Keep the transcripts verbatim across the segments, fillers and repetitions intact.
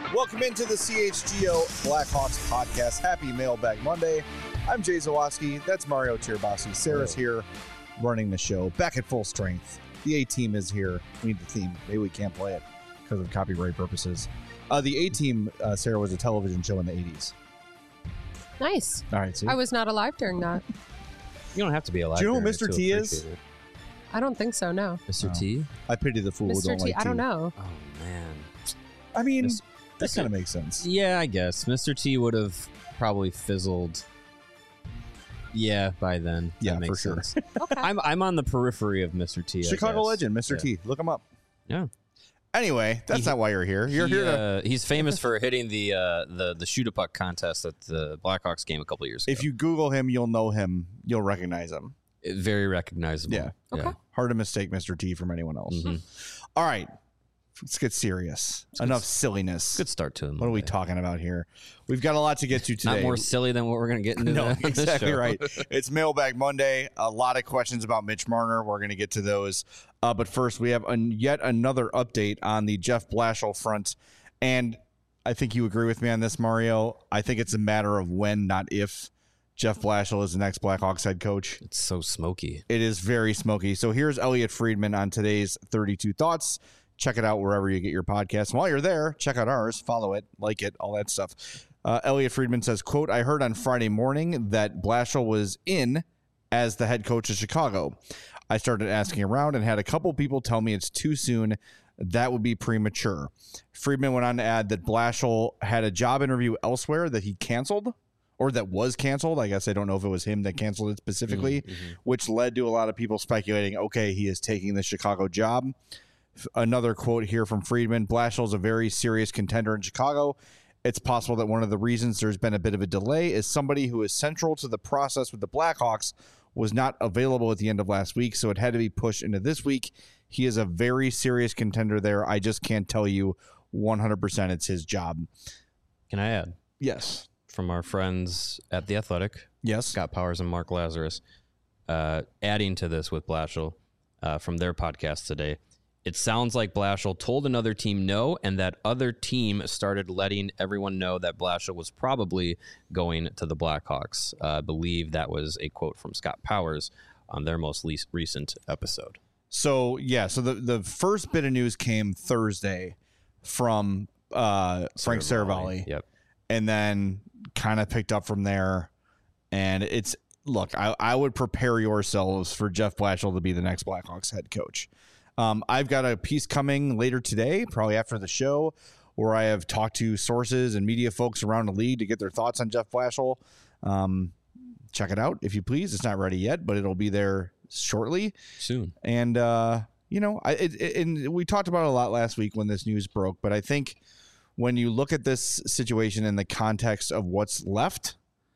Welcome into the C H G O Blackhawks podcast. Happy Mailbag Monday. I'm Jay Zawaski. That's Mario Tirabassi. Sarah's here running the show. Back at full strength. The A-Team is here. We need the theme. Maybe we can't play it because of copyright purposes. Uh, the A-Team, uh, Sarah, was a television show in the eighties. Nice. All right, see? I was not alive during that. You don't have to be alive. Do you know who during it Mister to T is? appreciate it. I don't think so, no. Mister Oh. T? I pity the fool who Mister don't T, like I don't tea. know. Oh, man. I mean, Mis- that kind of makes sense. Yeah, I guess. Mister T would have probably fizzled. Yeah, by then. Yeah, that makes for sure. sense. Okay. I'm I'm on the periphery of Mister T. I Chicago guess. legend, Mister Yeah. T. Look him up. Yeah. Anyway, that's He- not why you're here. You're He, here to... uh, he's famous for hitting the uh, the the shoot a puck contest at the Blackhawks game a couple years ago. If you Google him, you'll know him. You'll recognize him. It- very recognizable. Yeah. Okay. Hard to mistake Mister T from anyone else. Mhm. All right. Let's get serious. Enough silliness. Good start to him. What are we talking about here? We've got a lot to get to today. Not more silly than what we're going to get into. No, the, this exactly show. right. It's Mailbag Monday. A lot of questions about Mitch Marner. We're going to get to those. Uh, but first, we have an, yet another update on the Jeff Blashill front. And I think you agree with me on this, Mario. I think it's a matter of when, not if, Jeff Blashill is the next Blackhawks head coach. It's so smoky. It is very smoky. So here's Elliot Friedman on today's thirty-two Thoughts. Check it out wherever you get your podcast. And while you're there, check out ours, follow it, like it, all that stuff. Uh, Elliot Friedman says, quote, I heard on Friday morning that Blashill was in as the head coach of Chicago. I started asking around and had a couple people tell me it's too soon. That would be premature. Friedman went on to add that Blashill had a job interview elsewhere that he canceled, or that was canceled. I guess I don't know if it was him that canceled it specifically, Mm-hmm. which led to a lot of people speculating, okay, he is taking the Chicago job. Another quote here from Friedman, Blashill is a very serious contender in Chicago. It's possible that one of the reasons there's been a bit of a delay is somebody who is central to the process with the Blackhawks was not available at the end of last week, so it had to be pushed into this week. He is a very serious contender there. I just can't tell you one hundred percent it's his job. Can I add? Yes. From our friends at The Athletic, Yes. Scott Powers and Mark Lazarus, uh, adding to this with Blashill uh, from their podcast today. It sounds like Blashill told another team no, and that other team started letting everyone know that Blashill was probably going to the Blackhawks. Uh, I believe that was a quote from Scott Powers on their most least recent episode. So, yeah, so the, the first bit of news came Thursday from uh, Frank Saravalli. Yep. And then kind of picked up from there. And it's, look, I, I would prepare yourselves for Jeff Blashill to be the next Blackhawks head coach. Um, I've got a piece coming later today, probably after the show, where I have talked to sources and media folks around the league to get their thoughts on Jeff Blashill. Um, check it out, if you please. It's not ready yet, but it'll be there shortly. Soon. And, uh, you know, I, it, it, and we talked about it a lot last week when this news broke, but I think when you look at this situation in the context of what's left,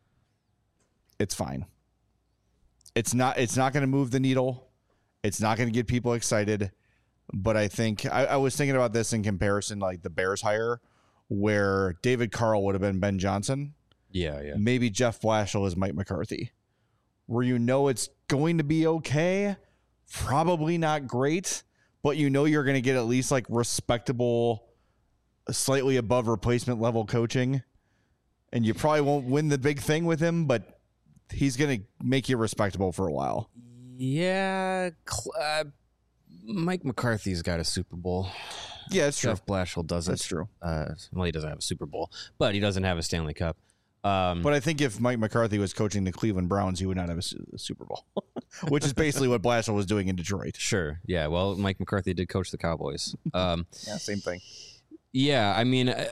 it's fine. It's not, it's not going to move the needle. It's not going to get people excited. But I think I, I was thinking about this in comparison, like the Bears hire, where David Carl would have been Ben Johnson. Yeah, yeah. Maybe Jeff Blashill is Mike McCarthy, where you know it's going to be okay. Probably not great, but you know you're going to get at least like respectable, slightly above replacement level coaching. And you probably won't win the big thing with him, but he's going to make you respectable for a while. Yeah, cl- uh, Mike McCarthy's got a Super Bowl. Yeah, it's true. Jeff Blashill doesn't. That's true. Uh, well, he doesn't have a Super Bowl, but he doesn't have a Stanley Cup. Um, But I think if Mike McCarthy was coaching the Cleveland Browns, he would not have a, su- a Super Bowl, which is basically what Blashill was doing in Detroit. sure, yeah. Well, Mike McCarthy did coach the Cowboys. Um, Yeah, same thing. yeah, I mean, uh,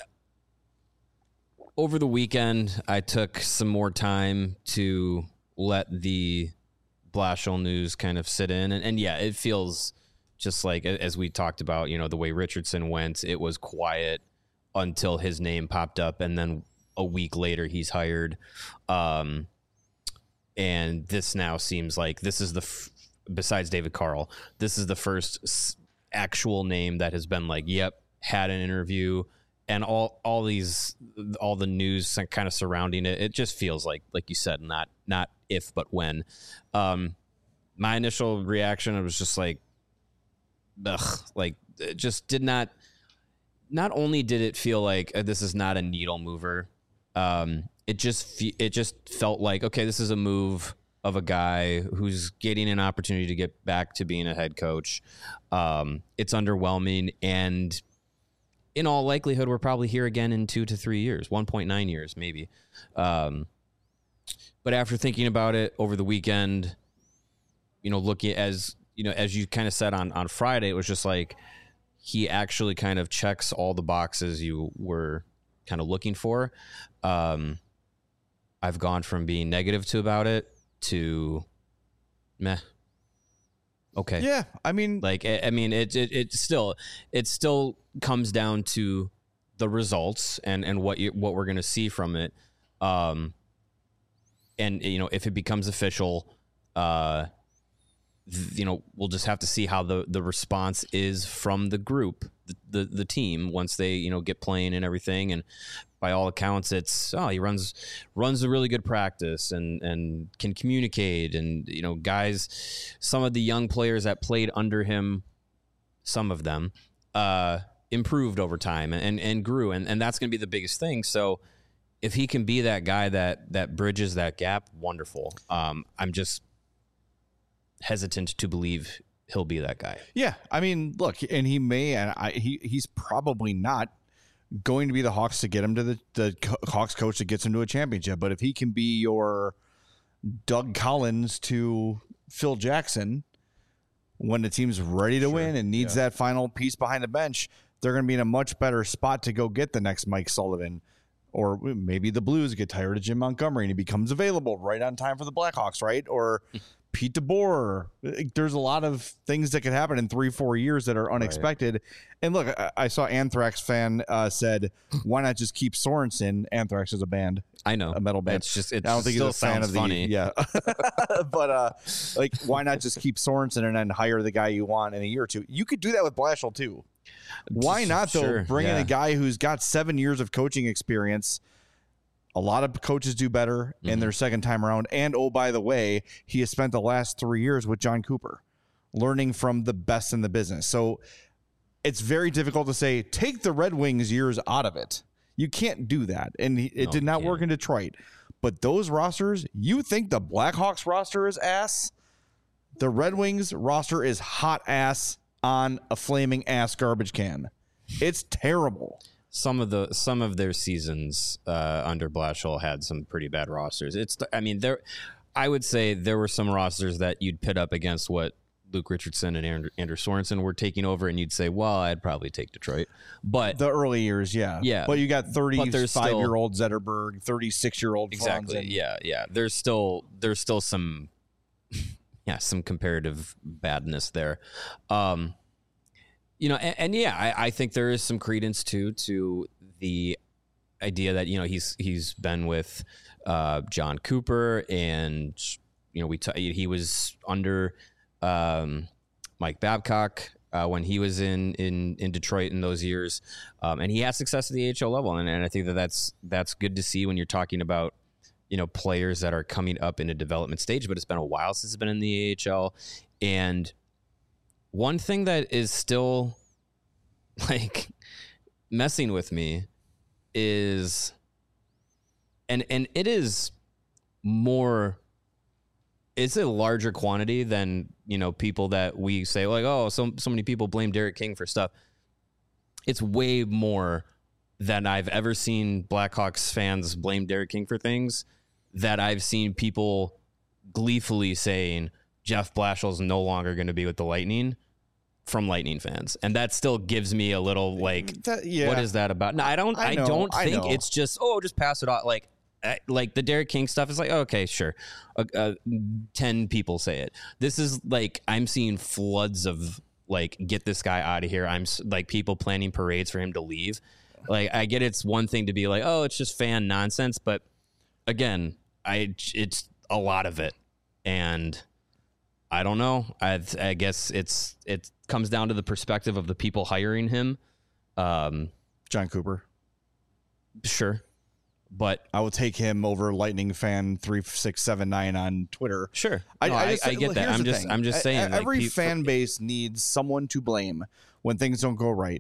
over the weekend, I took some more time to let the Blashill news kind of sit in, and, and yeah, it feels just like, as we talked about, you know, the way Richardson went, it was quiet until his name popped up, and then a week later he's hired. Um, and this now seems like this is the, f- besides David Carl, this is the first s- actual name that has been like, yep, had an interview, and all, all these, all the news kind of surrounding it. It just feels like, like you said, not, not if, but when. Um, my initial reaction, it was just like, ugh, like it just did not, not only did it feel like uh, this is not a needle mover, um, it just fe- it just felt like, okay, this is a move of a guy who's getting an opportunity to get back to being a head coach. Um, it's underwhelming, and in all likelihood, we're probably here again in two to three years, one point nine years maybe. Um, but after thinking about it over the weekend, you know, looking as you know, as you kind of said on on Friday, it was just like he actually kind of checks all the boxes you were kind of looking for. Um, I've gone from being negative to about it to meh. Okay. Yeah, I mean, Like, I I mean, it, it, it still, it still comes down to the results and, and what you, what we're going to see from it. Um, and you know, if it becomes official, uh, th- you know, we'll just have to see how the, the response is from the group, the, the, the team, once they, you know, get playing and everything. And by all accounts, it's, oh, he runs, runs a really good practice and, and can communicate. And, you know, guys, some of the young players that played under him, some of them, uh, improved over time and, and grew. And, and that's going to be the biggest thing. So if he can be that guy that, that bridges that gap, wonderful. Um, I'm just hesitant to believe he'll be that guy. yeah, I mean, look, and he may, and I, he he's probably not going to be the Hawks to get him to the, the Hawks coach that gets him to a championship. But if he can be your Doug Collins to Phil Jackson when the team's ready to Sure. win and needs Yeah. that final piece behind the bench, they're going to be in a much better spot to go get the next Mike Sullivan. Or maybe the Blues get tired of Jim Montgomery and he becomes available right on time for the Blackhawks, right? Or Pete DeBoer. There's a lot of things that could happen in three, four years that are unexpected. Right. And look, I, I saw Anthrax fan uh, said, "Why not just keep Sorensen?" Anthrax is a band. I know, a metal band. It's just, it I don't think still he's a fan sounds of the funny. yeah. But uh, like, why not just keep Sorensen and then hire the guy you want in a year or two? You could do that with Blashill too. Why not though? Sure, Bring yeah. in a guy who's got seven years of coaching experience. A lot of coaches do better in Mhm. their second time around. And, oh, by the way, he has spent the last three years with John Cooper, learning from the best in the business. So it's very difficult to say, take the Red Wings years out of it. You can't do that. And he, it No, did you not can't. work in Detroit. But those rosters, you think the Blackhawks roster is ass? The Red Wings roster is hot ass on a flaming ass garbage can. It's terrible. Some of the some of their seasons uh, under Blashill had some pretty bad rosters. It's I mean there, I would say there were some rosters that you'd pit up against what Luke Richardson and Andrew, Andrew Sorensen were taking over, and you'd say, well, I'd probably take Detroit. But The early years, yeah. Yeah. But you got there's still- thirty-five-year-old Zetterberg, thirty-six-year-old exactly, Franzen. yeah, yeah. There's still there's still some yeah some comparative badness there. Um, You know, and, and yeah, I, I think there is some credence too to the idea that you know he's he's been with uh, John Cooper, and you know we t- he was under um, Mike Babcock uh, when he was in in in Detroit in those years, um, and he has success at the A H L level, and, and I think that that's that's good to see when you're talking about you know players that are coming up in a development stage. But it's been a while since it's been in the A H L, and one thing that is still like messing with me is and and it is more it's a larger quantity than you know people that we say like oh so so many people blame Derek King for stuff. It's way more than I've ever seen Blackhawks fans blame Derek King for things that I've seen people gleefully saying Jeff Blashill's no longer going to be with the Lightning from Lightning fans. And that still gives me a little like, That- yeah. what is that about? No, I don't, I I, know, don't I think know. it's just, oh, just pass it off. Like, uh, like the Derek King stuff is like, okay, sure. Uh, uh, ten people say it. This is like, I'm seeing floods of like, get this guy out of here. I'm s- like people planning parades for him to leave. Like, I get it's one thing to be like, oh, it's just fan nonsense. But again, I, it's a lot of it. And I don't know. I, I guess it's it comes down to the perspective of the people hiring him. Um, John Cooper. sure, but I will take him over Lightning fan three six seven nine on Twitter. sure, I, No, I, I, just, I get look, that. here's I'm the just thing. I'm just E- saying. like, Every pe- fan base needs someone to blame when things don't go right.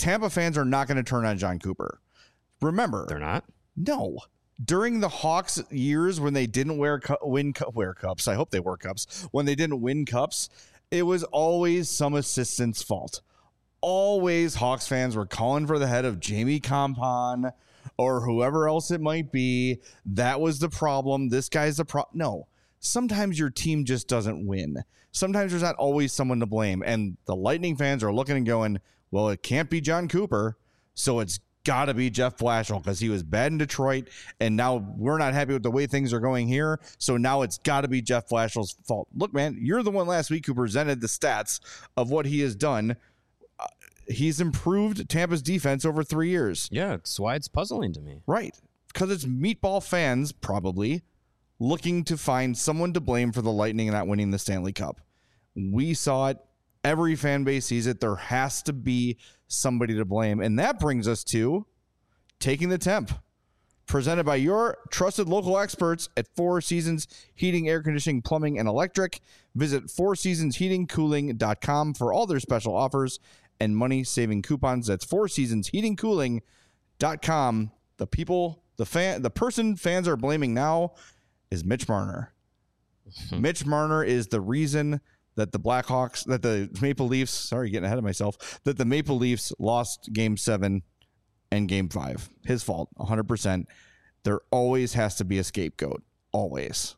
Tampa fans are not going to turn on John Cooper. Remember, They're not? no. During the Hawks years when they didn't wear cu- win cu- wear cups, I hope they wore cups. When they didn't win cups, it was always some assistant's fault. Always Hawks fans were calling for the head of Jamie Compon or whoever else it might be. That was the problem. This guy's the problem. No, sometimes your team just doesn't win. Sometimes there's not always someone to blame. And the Lightning fans are looking and going, well, it can't be John Cooper, so it's got to be Jeff Blashill because he was bad in Detroit, and now we're not happy with the way things are going here, so now it's got to be Jeff Blashill's fault. Look, man, you're the one last week who presented the stats of what he has done. Uh, he's improved Tampa's defense over three years. Yeah, that's why it's puzzling to me. Right, because it's meatball fans probably looking to find someone to blame for the Lightning not winning the Stanley Cup. We saw it. Every fan base sees it. There has to be somebody to blame. And that brings us to Taking the Temp, presented by your trusted local experts at Four Seasons Heating, Air Conditioning, Plumbing, and Electric. Visit four seasons heating cooling dot com for all their special offers and money-saving coupons. That's four seasons heating cooling dot com. The people, the fan, the person fans are blaming now is Mitch Marner. Mitch Marner is the reason that the Blackhawks, that the Maple Leafs, sorry, getting ahead of myself, that the Maple Leafs lost game seven and game five. His fault, one hundred percent. There always has to be a scapegoat. Always.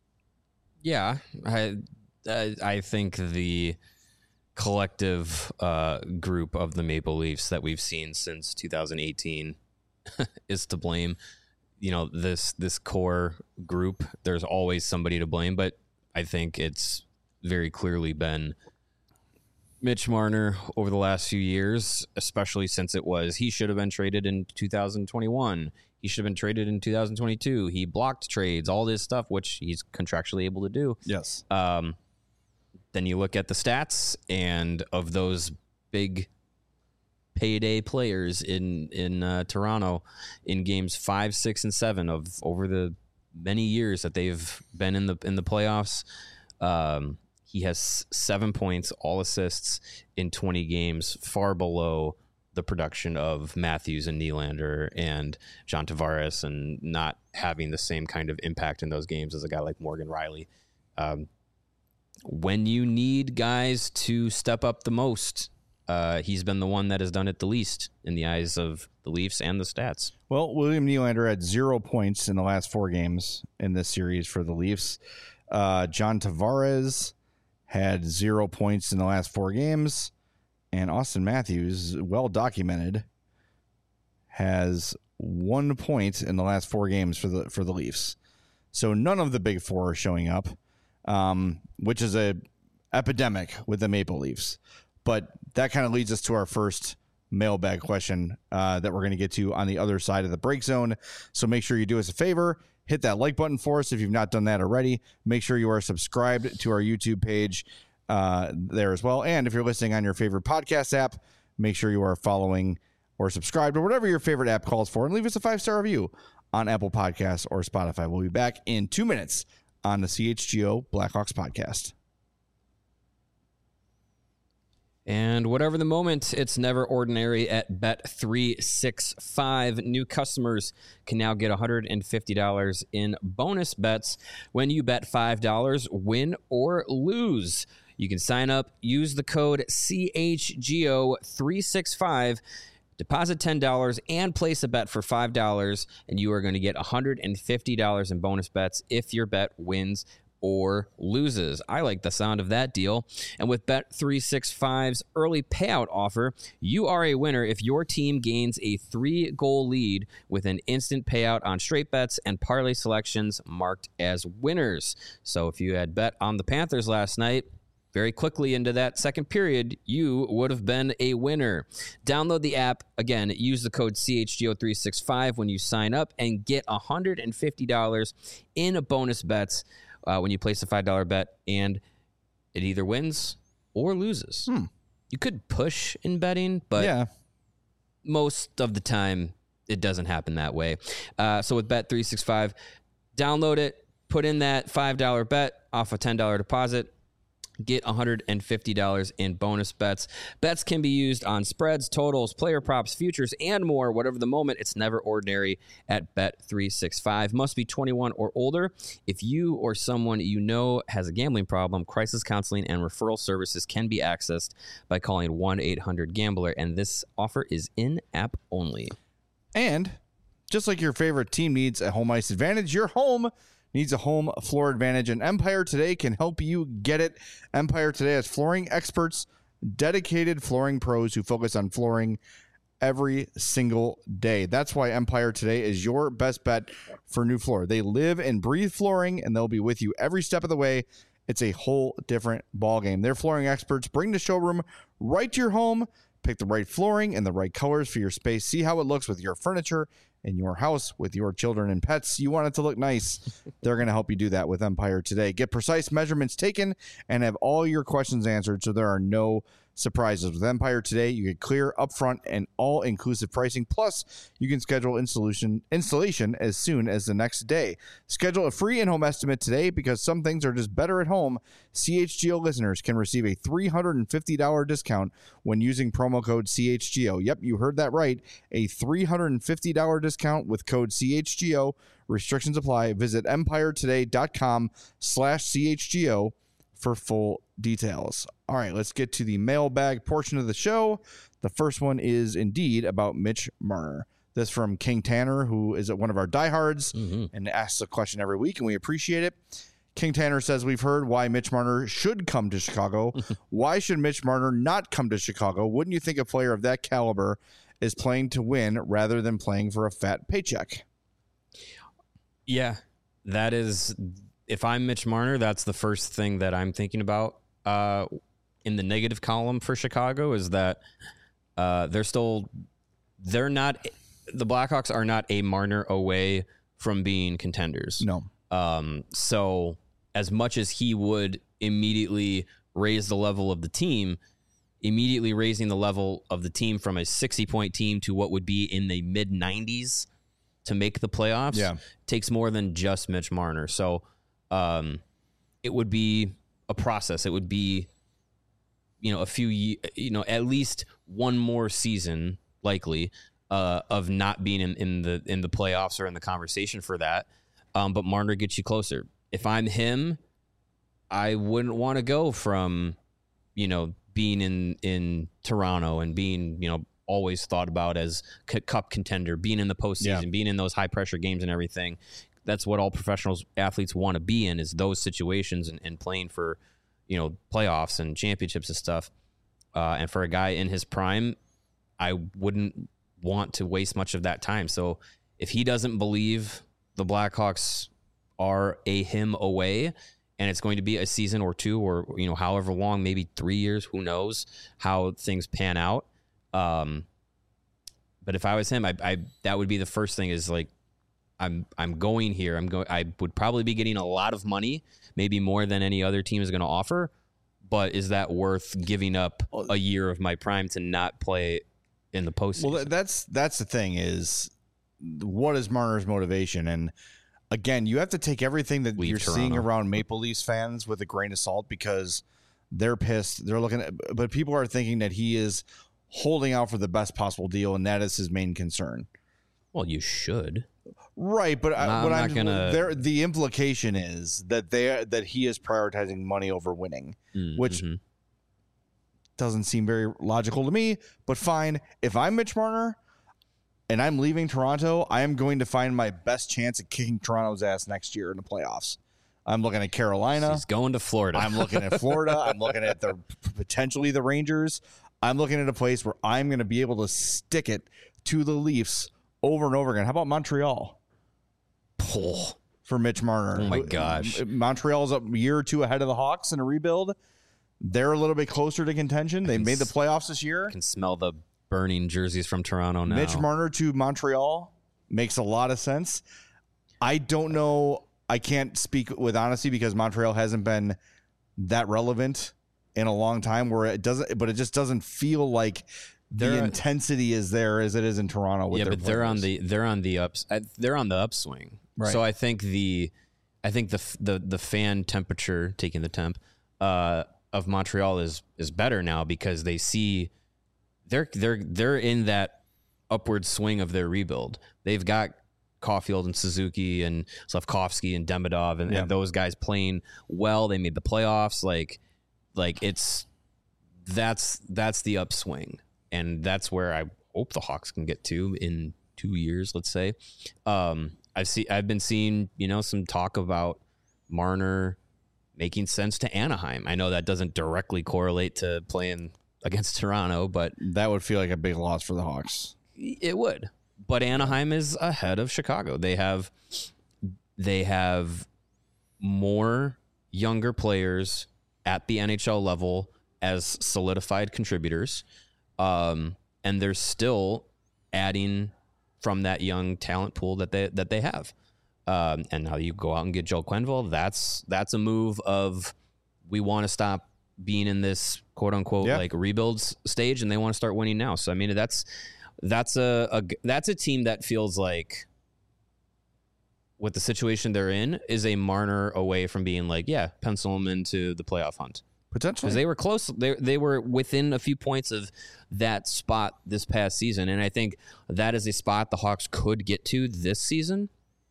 Yeah, I, I, I think the collective uh, group of the Maple Leafs that we've seen since two thousand eighteen is to blame. You know, this this core group, there's always somebody to blame, but I think it's very clearly been Mitch Marner over the last few years, especially since it was he should have been traded in two thousand twenty-one. He should have been traded in two thousand twenty-two. He blocked trades, all this stuff, which he's contractually able to do. Yes. Um, then you look at the stats, and of those big payday players in in uh, Toronto in games five, six, and seven of over the many years that they've been in the in the playoffs. Um, he has seven points, all assists in twenty games, far below the production of Matthews and Nylander and John Tavares, and not having the same kind of impact in those games as a guy like Morgan Rielly. Um, when you need guys to step up the most, uh, he's been the one that has done it the least in the eyes of the Leafs and the stats. Well, William Nylander had zero points in the last four games in this series for the Leafs. Uh, John Tavares had zero points in the last four games. And Austin Matthews, well documented, has one point in the last four games for the for the Leafs. So none of the big four are showing up, um, which is a epidemic with the Maple Leafs. But that kind of leads us to our first mailbag question uh, that we're going to get to on the other side of the break zone. So make sure you do us a favor. Hit that like button for us if you've not done that already. Make sure you are subscribed to our YouTube page uh, there as well. And if you're listening on your favorite podcast app, make sure you are following or subscribed or whatever your favorite app calls for, and leave us a five-star review on Apple Podcasts or Spotify. We'll be back in two minutes on the C H G O Blackhawks podcast. And whatever the moment, it's never ordinary at Bet three sixty-five. New customers can now get one hundred fifty dollars in bonus bets when you bet five dollars, win or lose. You can sign up, use the code C H G O three sixty-five, deposit ten dollars, and place a bet for five dollars, and you are going to get one hundred fifty dollars in bonus bets if your bet wins or loses. I like the sound of that deal. And with Bet three sixty-five's early payout offer, you are a winner if your team gains a three-goal lead with an instant payout on straight bets and parlay selections marked as winners. So if you had bet on the Panthers last night, very quickly into that second period, you would have been a winner. Download the app. Again, use the code C H G O three sixty-five when you sign up and get one hundred fifty dollars in bonus bets Uh, when you place a five dollar bet, and it either wins or loses. Hmm. You could push in betting, but yeah. most of the time it doesn't happen that way. Uh, so with Bet three sixty-five, download it, put in that five dollar bet off a ten dollar deposit, get one hundred fifty dollars in bonus bets. Bets can be used on spreads, totals, player props, futures, and more. Whatever the moment, it's never ordinary at Bet three sixty-five. Must be twenty-one or older. If you or someone you know has a gambling problem, crisis counseling and referral services can be accessed by calling one eight hundred gambler, and this offer is in-app only. And just like your favorite team needs a home ice advantage, your home needs a home floor advantage, and Empire Today can help you get it. Empire Today has flooring experts, dedicated flooring pros who focus on flooring every single day. That's why Empire Today is your best bet for new floor. They live and breathe flooring, and they'll be with you every step of the way. It's a whole different ballgame. Their flooring experts bring the showroom right to your home. Pick the right flooring and the right colors for your space. See how it looks with your furniture in your house with your children and pets. You want it to look nice. They're going to help you do that with Empire Today. Get precise measurements taken and have all your questions answered so there are no surprises. With Empire Today, you get clear, upfront, and all-inclusive pricing. Plus, you can schedule installation installation as soon as the next day. Schedule a free in-home estimate today because some things are just better at home. C H G O listeners can receive a three hundred fifty dollars discount when using promo code C H G O. Yep, you heard that right. A three hundred fifty dollars discount with code C H G O. Restrictions apply. Visit empiretoday.com slash CHGO for full details. All right, let's get to the mailbag portion of the show. The first one is indeed about Mitch Marner. This from King Tanner, who is one of our diehards mm-hmm. and asks a question every week, and we appreciate it. King Tanner says, we've heard why Mitch Marner should come to Chicago. Why should Mitch Marner not come to Chicago? Wouldn't you think a player of that caliber is playing to win rather than playing for a fat paycheck? Yeah, that is... If I'm Mitch Marner, that's the first thing that I'm thinking about uh, in the negative column for Chicago is that uh, they're still, they're not, the Blackhawks are not a Marner away from being contenders. No. Um, so as much as he would immediately raise the level of the team, immediately raising the level of the team from a sixty-point team to what would be in the mid nineties to make the playoffs yeah. takes more than just Mitch Marner. So, Um, it would be a process. It would be, you know, a few, you know, at least one more season likely uh, of not being in, in the in the playoffs or in the conversation for that. Um, but Marner gets you closer. If I'm him, I wouldn't want to go from, you know, being in in Toronto and being, you know, always thought about as cup contender, being in the postseason, yeah. being in those high pressure games and everything. That's what all professional athletes want to be in, is those situations and, and playing for, you know, playoffs and championships and stuff. Uh, and for a guy in his prime, I wouldn't want to waste much of that time. So if he doesn't believe the Blackhawks are a him away and it's going to be a season or two or, you know, however long, maybe three years, who knows how things pan out. Um, but if I was him, I, I that would be the first thing is like, I'm I'm going here. I'm going. I would probably be getting a lot of money, maybe more than any other team is going to offer. But is that worth giving up a year of my prime to not play in the postseason? Well, that's that's the thing is, what is Marner's motivation? And again, you have to take everything that Leave you're Toronto. seeing around Maple Leafs fans with a grain of salt because they're pissed. They're looking at, but people are thinking that he is holding out for the best possible deal, and that is his main concern. Well, you should. Right, but I, I'm what not I'm gonna- there, the implication is that they that he is prioritizing money over winning, Mm, which mhm. doesn't seem very logical to me. But fine, if I'm Mitch Marner and I'm leaving Toronto, I am going to find my best chance at kicking Toronto's ass next year in the playoffs. I'm looking at Carolina. He's going to Florida. I'm looking at Florida. I'm looking at the potentially the Rangers. I'm looking at a place where I'm going to be able to stick it to the Leafs over and over again. How about Montreal? Oh, For Mitch Marner. Oh, my gosh. Montreal's a year or two ahead of the Hawks in a rebuild. They're a little bit closer to contention. They made the playoffs this year. I can smell the burning jerseys from Toronto now. Mitch Marner to Montreal makes a lot of sense. I don't know. I can't speak with honesty because Montreal hasn't been that relevant in a long time where it doesn't, but it just doesn't feel like the They're- intensity is there as it is in Toronto. With yeah, their but they're on players. the they're on the ups. uh, They're on the upswing. Right. So I think the I think the f- the the fan temperature taking the temp uh, of Montreal is is better now because they see they're they're they're in that upward swing of their rebuild. They've got Caulfield and Suzuki and Slafkovsky and Demidov and, Yeah. and those guys playing well. They made the playoffs. Like like it's that's that's the upswing, and that's where I hope the Hawks can get to in two years. Let's say. Um, I've see I've been seeing you know some talk about Marner making sense to Anaheim. I know that doesn't directly correlate to playing against Toronto, but That would feel like a big loss for the Hawks. it would. But Anaheim is ahead of Chicago. They have they have more younger players at the N H L level as solidified contributors, um, and they're still adding from that young talent pool that they that they have. Um, and now you go out and get Joel Quenneville. That's that's a move of we want to stop being in this quote unquote Yeah. like rebuilds stage, and they want to start winning now. So I mean that's that's a, a that's a team that feels like with the situation they're in is a Marner away from being like yeah pencil them into the playoff hunt Potentially. because they were close. They they were within a few points of that spot this past season, and I think that is a spot the Hawks could get to this season.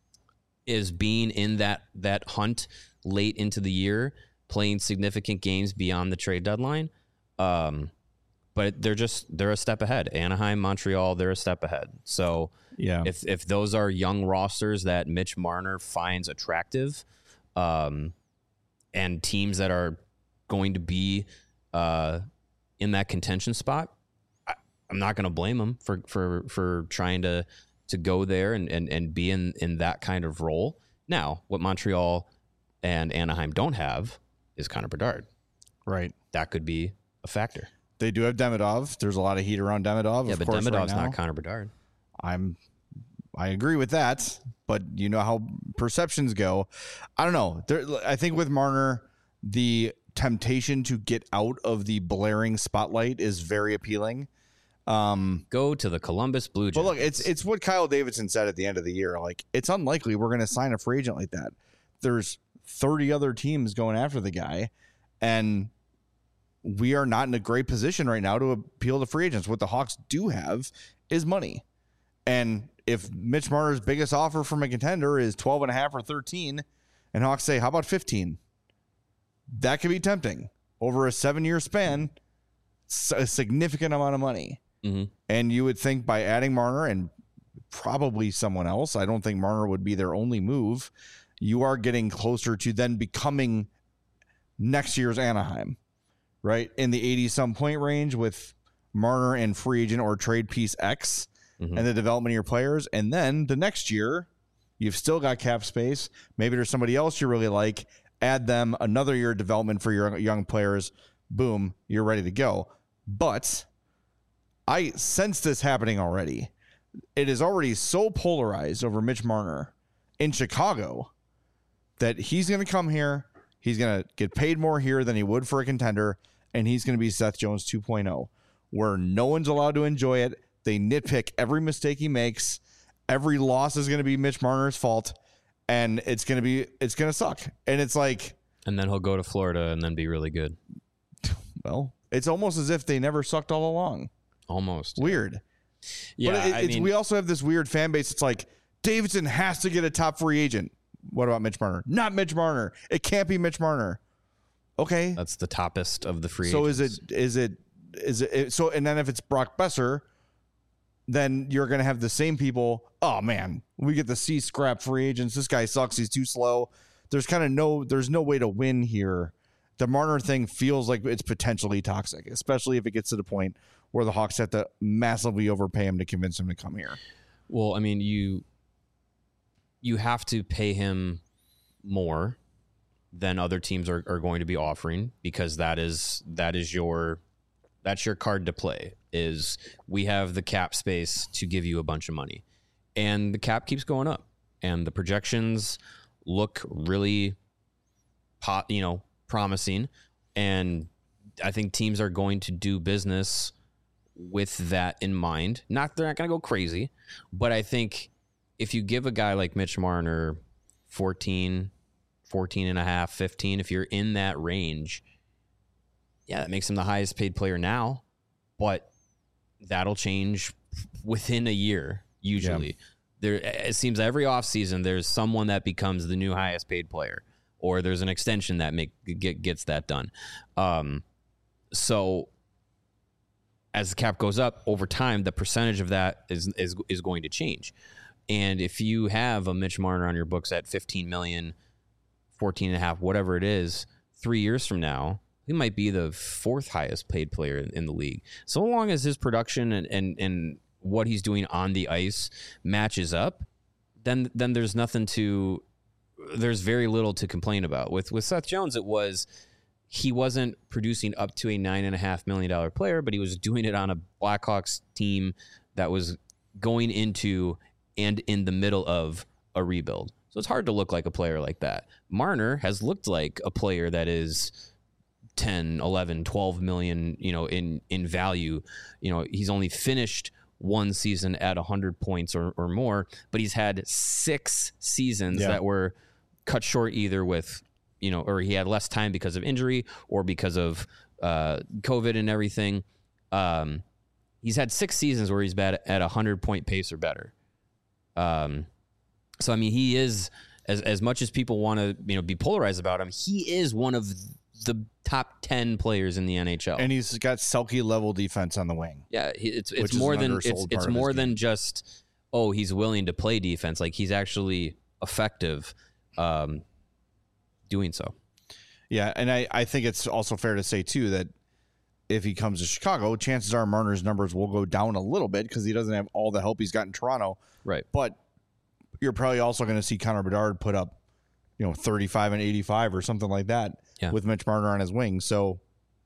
Is being in that that hunt late into the year, playing significant games beyond the trade deadline. Um, but they're just they're a step ahead. Anaheim, Montreal, they're a step ahead. So yeah. if if those are young rosters that Mitch Marner finds attractive, um, and teams that are going to be uh, in that contention spot, I, I'm not going to blame them for for for trying to. to go there and, and, and be in, in that kind of role. Now, what Montreal and Anaheim don't have is Connor Bedard. Right. That could be a factor. They do have Demidov. There's a lot of heat around Demidov. Yeah, of but course, Demidov's right now. not Connor Bedard. I'm I agree with that, but you know how perceptions go. I don't know. There, I think with Marner, the temptation to get out of the blaring spotlight is very appealing. Um, Go to the Columbus Blue Jackets. but look, it's it's what Kyle Davidson said at the end of the year. Like, it's unlikely we're going to sign a free agent like that. There's thirty other teams going after the guy, and we are not in a great position right now to appeal to free agents. What the Hawks do have is money. And if Mitch Marner's biggest offer from a contender is twelve and a half or thirteen, and Hawks say, how about fifteen? That could be tempting. Over a seven-year span, a significant amount of money. Mm-hmm. And you would think by adding Marner and probably someone else, I don't think Marner would be their only move, you are getting closer to then becoming next year's Anaheim, right? In the eighty-some point range with Marner and free agent or trade piece X Mm-hmm. and the development of your players. And then the next year, you've still got cap space. Maybe there's somebody else you really like. Add them another year of development for your young players. Boom, you're ready to go. But I sense this happening already. It is already so polarized over Mitch Marner in Chicago that he's going to come here. He's going to get paid more here than he would for a contender, and he's going to be Seth Jones two point oh, where no one's allowed to enjoy it. They nitpick every mistake he makes. Every loss is going to be Mitch Marner's fault, and it's going to be it's going to suck. And it's like, And then he'll go to Florida and then be really good. well, it's almost as if they never sucked all along. Almost. Weird. Yeah, but it, I it's, mean, we also have this weird fan base. It's like Davidson has to get a top free agent. What about Mitch Marner? Not Mitch Marner. It can't be Mitch Marner. Okay. that's the toppest of the free So agents. is it is it is it so? And then if it's Brock Besser, then you're going to have the same people. Oh man, we get the C scrap free agents. This guy sucks. He's too slow. There's kind of no. There's no way to win here. The Marner thing feels like it's potentially toxic, especially if it gets to the point where the Hawks have to massively overpay him to convince him to come here. Well, I mean, you you have to pay him more than other teams are, are going to be offering because that is that is your that's your card to play. Is we have the cap space to give you a bunch of money, and the cap keeps going up, and the projections look really, pot, you know, promising, and I think teams are going to do business with that in mind. Not they're not going to go crazy, but I think if you give a guy like Mitch Marner fourteen, fourteen and a half, fifteen, if you're in that range, yeah, that makes him the highest paid player now, but that'll change within a year. Usually, yeah. there it seems every offseason there's someone that becomes the new highest paid player, or there's an extension that make get, gets that done. Um, so as the cap goes up over time, the percentage of that is is is going to change. And if you have a Mitch Marner on your books at fifteen million, fourteen and a half, whatever it is, three years from now, he might be the fourth highest paid player in, in the league. So long as his production and, and, and what he's doing on the ice matches up, then then there's nothing to, there's very little to complain about. With with Seth Jones, it was, he wasn't producing up to a nine and a half million dollar player, but he was doing it on a Blackhawks team that was going into and in the middle of a rebuild. So it's hard to look like a player like that. Marner has looked like a player that is ten, eleven, twelve million, you know, in, in value. You know, he's only finished one season at one hundred points or, or more, but he's had six seasons yeah. that were cut short either with, you know, or he had less time because of injury or because of uh, COVID and everything. Um, he's had six seasons where he's been at a one hundred point pace or better. Um, so, I mean, he is, as as much as people want to, you know, be polarized about him, he is one of the top ten players in the N H L. And he's got Selke level defense on the wing. Yeah, he, it's it's more than it's it's more than just, oh, he's willing to play defense. Like, he's actually effective um, doing so. Yeah, and I, I think it's also fair to say, too, that if he comes to Chicago, chances are Marner's numbers will go down a little bit because he doesn't have all the help he's got in Toronto. Right. But you're probably also going to see Connor Bedard put up, you know, thirty-five and eighty-five or something like that yeah. with Mitch Marner on his wing. So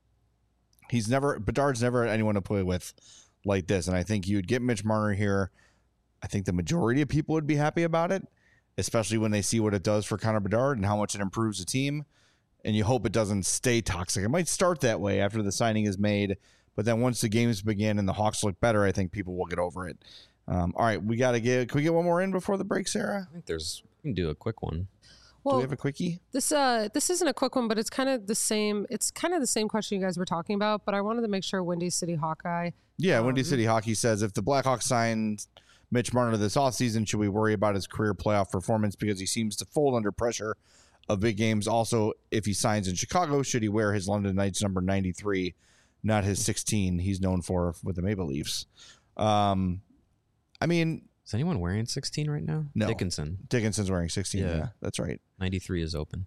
he's never, Bedard's never had anyone to play with like this. And I think you'd get Mitch Marner here. I think the majority of people would be happy about it, especially when they see what it does for Connor Bedard and how much it improves the team. And you hope it doesn't stay toxic. It might start that way after the signing is made, but then once the games begin and the Hawks look better, I think people will get over it. Um, all right, we got to get. Can we get one more in before the break, Sarah? I think there's. We can do a quick one. Well, do we have a quickie? This uh, this isn't a quick one, but it's kind of the same. It's kind of the same question you guys were talking about, but I wanted to make sure Windy City Hawkeye. Yeah, um, Windy City Hockey says if the Blackhawks signed Mitch Marner this offseason, should we worry about his career playoff performance because he seems to fold under pressure of big games? Also, if he signs in Chicago, should he wear his London Knights number ninety-three, not his sixteen he's known for with the Maple Leafs? Um, I mean, is anyone wearing sixteen right now? No. Dickinson. Dickinson's wearing sixteen. Yeah, yeah that's right. ninety-three is open.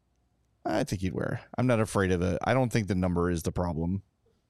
I think he'd wear. I'm not afraid of it. I don't think the number is the problem.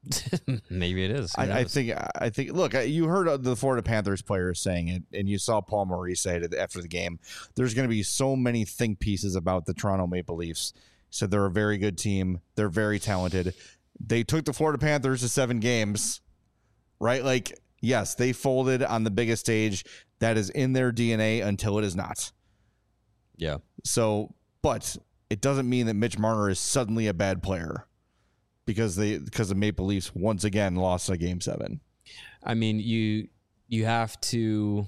Maybe it is. I, I think. I think. Look, you heard the Florida Panthers players saying it, and you saw Paul Maurice say it after the game. There's going to be so many think pieces about the Toronto Maple Leafs. He said they're a very good team. They're very talented. They took the Florida Panthers to seven games, right? Like, yes, they folded on the biggest stage. That is in their D N A until it is not. Yeah. So, but it doesn't mean that Mitch Marner is suddenly a bad player. Because they because the Maple Leafs once again lost a game seven. I mean, you you have to,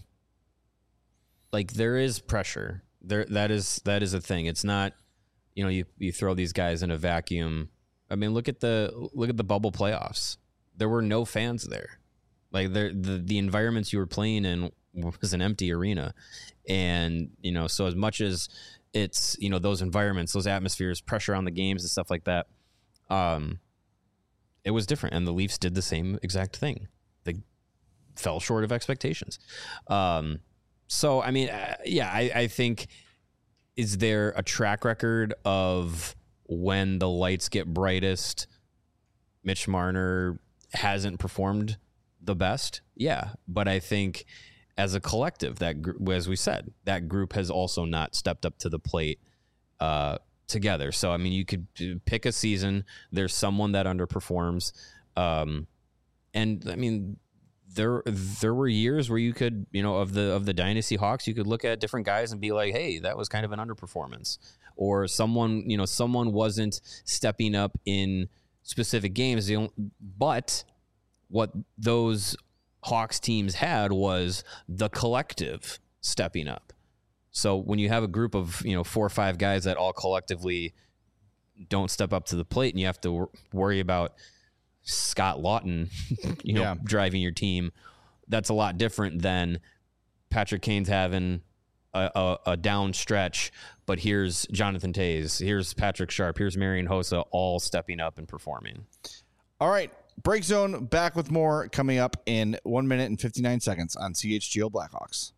like, there is pressure. There that is that is a thing. It's not, you know, you, you throw these guys in a vacuum. I mean, look at the look at the bubble playoffs. There were no fans there. Like, the the environments you were playing in was an empty arena. And, you know, so as much as it's, you know, those environments, those atmospheres, pressure on the games and stuff like that, um, it was different, and the Leafs did the same exact thing. They fell short of expectations. Um, so, I mean, uh, yeah, I, I think, is there a track record of when the lights get brightest, Mitch Marner hasn't performed the best? Yeah, but I think as a collective, that gr- as we said, that group has also not stepped up to the plate uh together. So, I mean, you could pick a season. There's someone that underperforms. Um, and I mean, there, there were years where you could, you know, of the, of the Dynasty Hawks, you could look at different guys and be like, hey, that was kind of an underperformance, or someone, you know, someone wasn't stepping up in specific games. But what those Hawks teams had was the collective stepping up. So when you have a group of, you know, four or five guys that all collectively don't step up to the plate and you have to wor- worry about Scott Lawton, you know, Yeah. driving your team. That's a lot different than Patrick Kane's having a, a, a down stretch, but here's Jonathan Toews, here's Patrick Sharp, here's Marian Hossa, all stepping up and performing. All right. Break Zone back with more coming up in one minute and fifty-nine seconds on C H G O Blackhawks.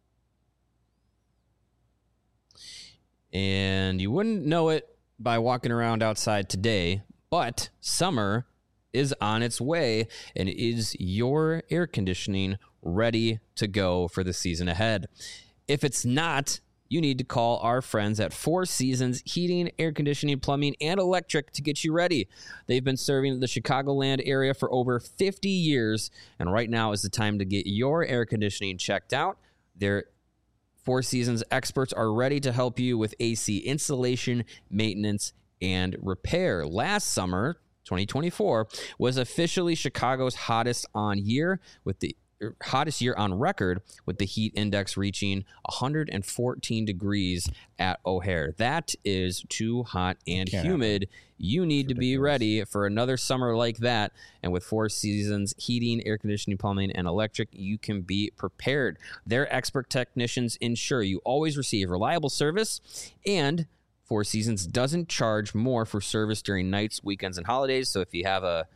And you wouldn't know it by walking around outside today, but summer is on its way, and is your air conditioning ready to go for the season ahead? If it's not, you need to call our friends at Four Seasons Heating, Air Conditioning, Plumbing, and Electric to get you ready. They've been serving the Chicagoland area for over fifty years, and right now is the time to get your air conditioning checked out. Their Four Seasons experts are ready to help you with A C installation, maintenance, and repair. Last summer, twenty twenty-four, was officially Chicago's hottest on year with the hottest year on record, with the heat index reaching one hundred fourteen degrees at O'Hare. That is too hot and Can't humid. You need to be ready for another summer like that. And with Four Seasons Heating, Air Conditioning, Plumbing, and Electric, you can be prepared. Their expert technicians ensure you always receive reliable service, and Four Seasons doesn't charge more for service during nights, weekends, and holidays. So if you have a,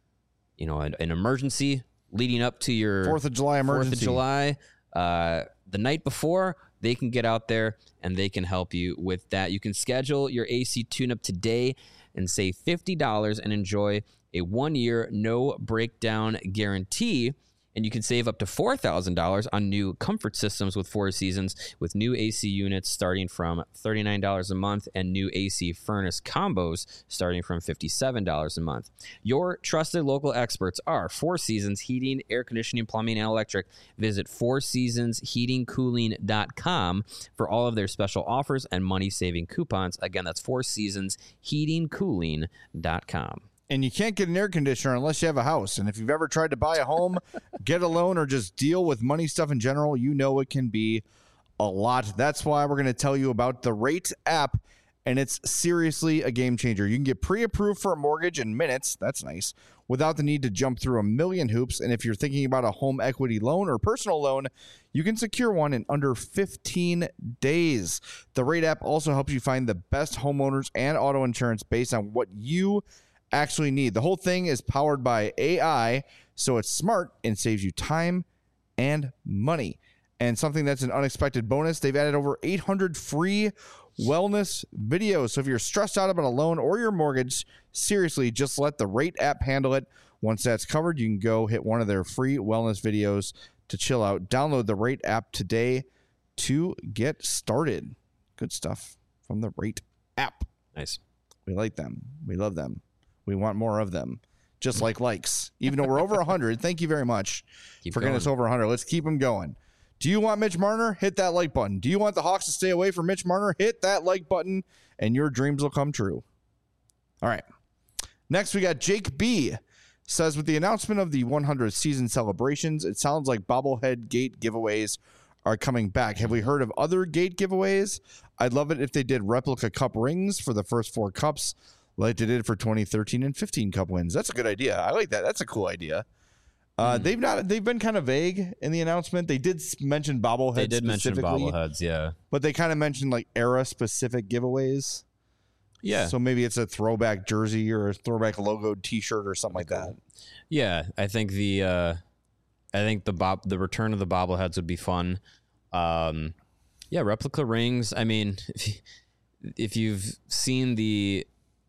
you know, an, an emergency leading up to your Fourth of July emergency. Fourth of July, uh, the night before, they can get out there and they can help you with that. You can schedule your A C tune-up today and save fifty dollars and enjoy a one-year no breakdown guarantee. And you can save up to four thousand dollars on new comfort systems with Four Seasons, with new A C units starting from thirty-nine dollars a month and new A C furnace combos starting from fifty-seven dollars a month. Your trusted local experts are Four Seasons Heating, Air Conditioning, Plumbing, and Electric. Visit four seasons heating cooling dot com for all of their special offers and money-saving coupons. Again, that's four seasons heating cooling dot com. And you can't get an air conditioner unless you have a house. And if you've ever tried to buy a home, get a loan, or just deal with money stuff in general, you know it can be a lot. That's why we're going to tell you about the Rate app, and it's seriously a game changer. You can get pre-approved for a mortgage in minutes. That's nice. Without the need to jump through a million hoops. And if you're thinking about a home equity loan or personal loan, you can secure one in under fifteen days. The Rate app also helps you find the best homeowners and auto insurance based on what you actually need. The whole thing is powered by A I, so it's smart and saves you time and money. And something that's an unexpected bonus, they've added over eight hundred free wellness videos. So if you're stressed out about a loan or your mortgage, seriously, just let the Rate app handle it. Once that's covered, you can go hit one of their free wellness videos to chill out. Download the Rate app today to get started. Good stuff from the Rate app. Nice. We like them. We love them. We want more of them, just like likes. Even though we're over one hundred, thank you very much Keep for getting us over one hundred. Let's keep them going. Do you want Mitch Marner? Hit that like button. Do you want the Hawks to stay away from Mitch Marner? Hit that like button, and your dreams will come true. All right. Next, we got Jake B. Says, with the announcement of the one hundredth season celebrations, it sounds like bobblehead gate giveaways are coming back. Have we heard of other gate giveaways? I'd love it if they did replica cup rings for the first four cups, like they did for twenty thirteen and fifteen cup wins. That's a good idea. I like that. That's a cool idea. Uh, mm. They've not. They've been kind of vague in the announcement. They did mention bobbleheads. They did mention bobbleheads, yeah. But they kind of mentioned like era specific giveaways. Yeah. So maybe it's a throwback jersey or a throwback logoed T-shirt or something like that. Yeah, I think the uh, I think the bob the return of the bobbleheads would be fun. Um, yeah, replica rings. I mean, if, if you've seen the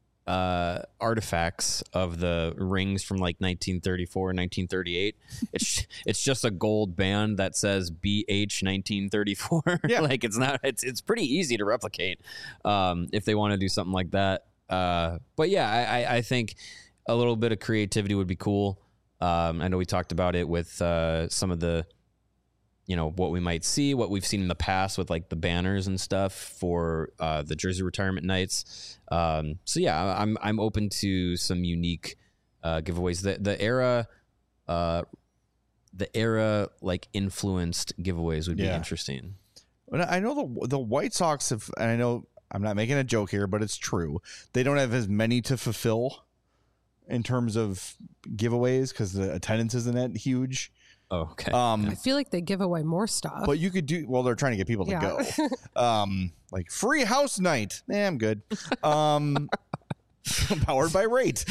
uh, artifacts of the rings from like nineteen thirty-four, nineteen thirty-eight, it's it's just a gold band that says B H nineteen thirty-four. Yeah. Like it's not. It's it's pretty easy to replicate um, if they want to do something like that. Uh, but yeah, I, I, I think a little bit of creativity would be cool. Um, I know we talked about it with uh, some of the, you know, what we might see, what we've seen in the past with like the banners and stuff for uh, the jersey retirement nights. Um, so yeah, I'm I'm open to some unique uh, giveaways. The the era, uh, the era like influenced giveaways would be yeah. interesting. I know the the White Sox have, and I know I'm not making a joke here, but it's true. They don't have as many to fulfill in terms of giveaways because the attendance isn't that huge. Oh, okay. Um, I feel like they give away more stuff. but you could do well. They're trying to get people to Yeah. go. Um, like free house night. Eh, I'm good. Um, powered by Rate.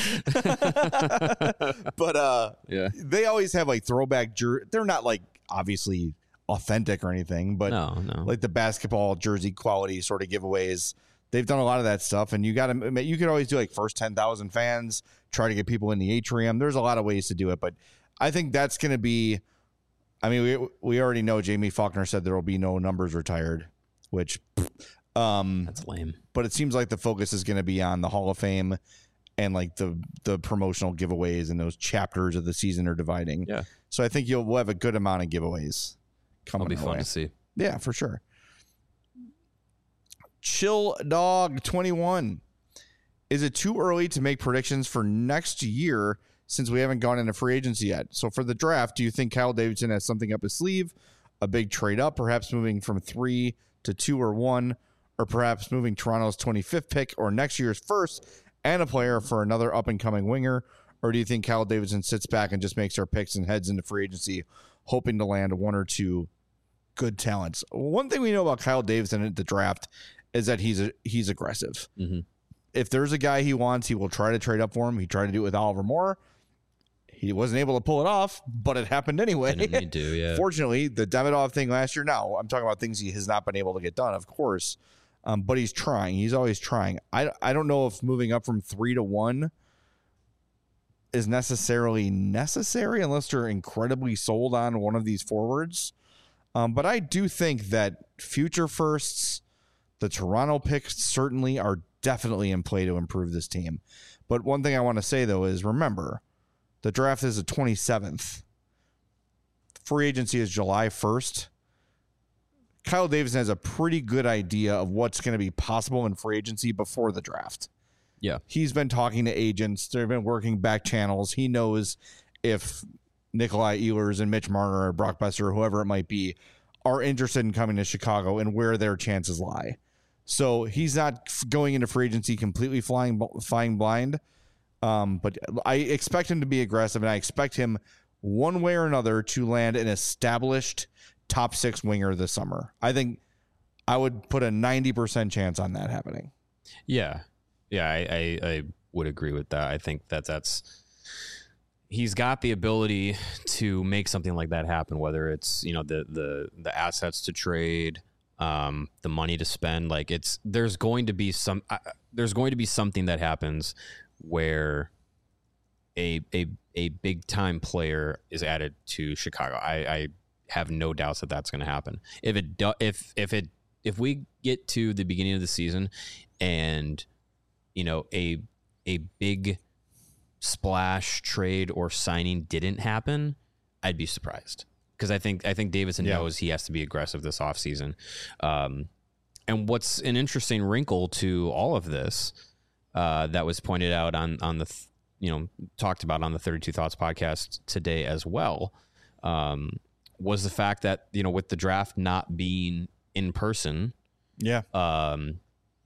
But uh, Yeah. they always have like throwback. Jer- They're not like obviously authentic or anything, but No, no. like the basketball jersey quality sort of giveaways. They've done a lot of that stuff, and you got to. You could always do like first ten thousand fans. Try to get people in the atrium. There's a lot of ways to do it, but I think that's going to be. I mean, we we already know Jamie Faulkner said there will be no numbers retired, which, um, That's lame. but it seems like the focus is going to be on the Hall of Fame and like the the promotional giveaways, and those chapters of the season are dividing. Yeah. So I think you'll we'll have a good amount of giveaways coming. It'll be our fun way. to see. Yeah, for sure. Chill Dog twenty-one. Is it too early to make predictions for next year since we haven't gone into free agency yet? So for the draft, do you think Kyle Davidson has something up his sleeve, a big trade up, perhaps moving from three to two or one, or perhaps moving Toronto's twenty-fifth pick or next year's first and a player for another up-and-coming winger? Or do you think Kyle Davidson sits back and just makes our picks and heads into free agency, hoping to land one or two good talents? One thing we know about Kyle Davidson at the draft is that he's a, he's aggressive. Mm-hmm. If there's a guy he wants, he will try to trade up for him. He tried to do it with Oliver Moore. He wasn't able to pull it off, but it happened anyway. Didn't need to, yeah. Fortunately, the Demidov thing last year, now I'm talking about things he has not been able to get done, of course. Um, but he's trying. He's always trying. I, I don't know if moving up from three to one is necessarily necessary unless they're incredibly sold on one of these forwards. Um, but I do think that future firsts, the Toronto picks certainly are definitely in play to improve this team. But one thing I want to say, though, is remember, the draft is the twenty-seventh. Free agency is July first. Kyle Davidson has a pretty good idea of what's going to be possible in free agency before the draft. Yeah. He's been talking to agents. They've been working back channels. He knows if Nikolai Ehlers and Mitch Marner or Brock Besser or whoever it might be are interested in coming to Chicago and where their chances lie. So he's not going into free agency completely flying flying blind. Um, but I expect him to be aggressive, and I expect him one way or another to land an established top six winger this summer. I think I would put a ninety percent chance on that happening. Yeah. Yeah, I, I, I would agree with that. I think that that's he's got the ability to make something like that happen, whether it's, you know, the the the assets to trade, um, the money to spend. Like it's there's going to be some uh, there's going to be something that happens where a a a big time player is added to Chicago. I, I have no doubts that that's going to happen. If it do, if if it if we get to the beginning of the season and you know a a big splash trade or signing didn't happen, I'd be surprised. Because I think I think Davidson Yeah. knows he has to be aggressive this offseason. Um, and what's an interesting wrinkle to all of this uh, that was pointed out on on the th- you know talked about on the thirty-two Thoughts podcast today as well um, was the fact that you know with the draft not being in person, Yeah. um,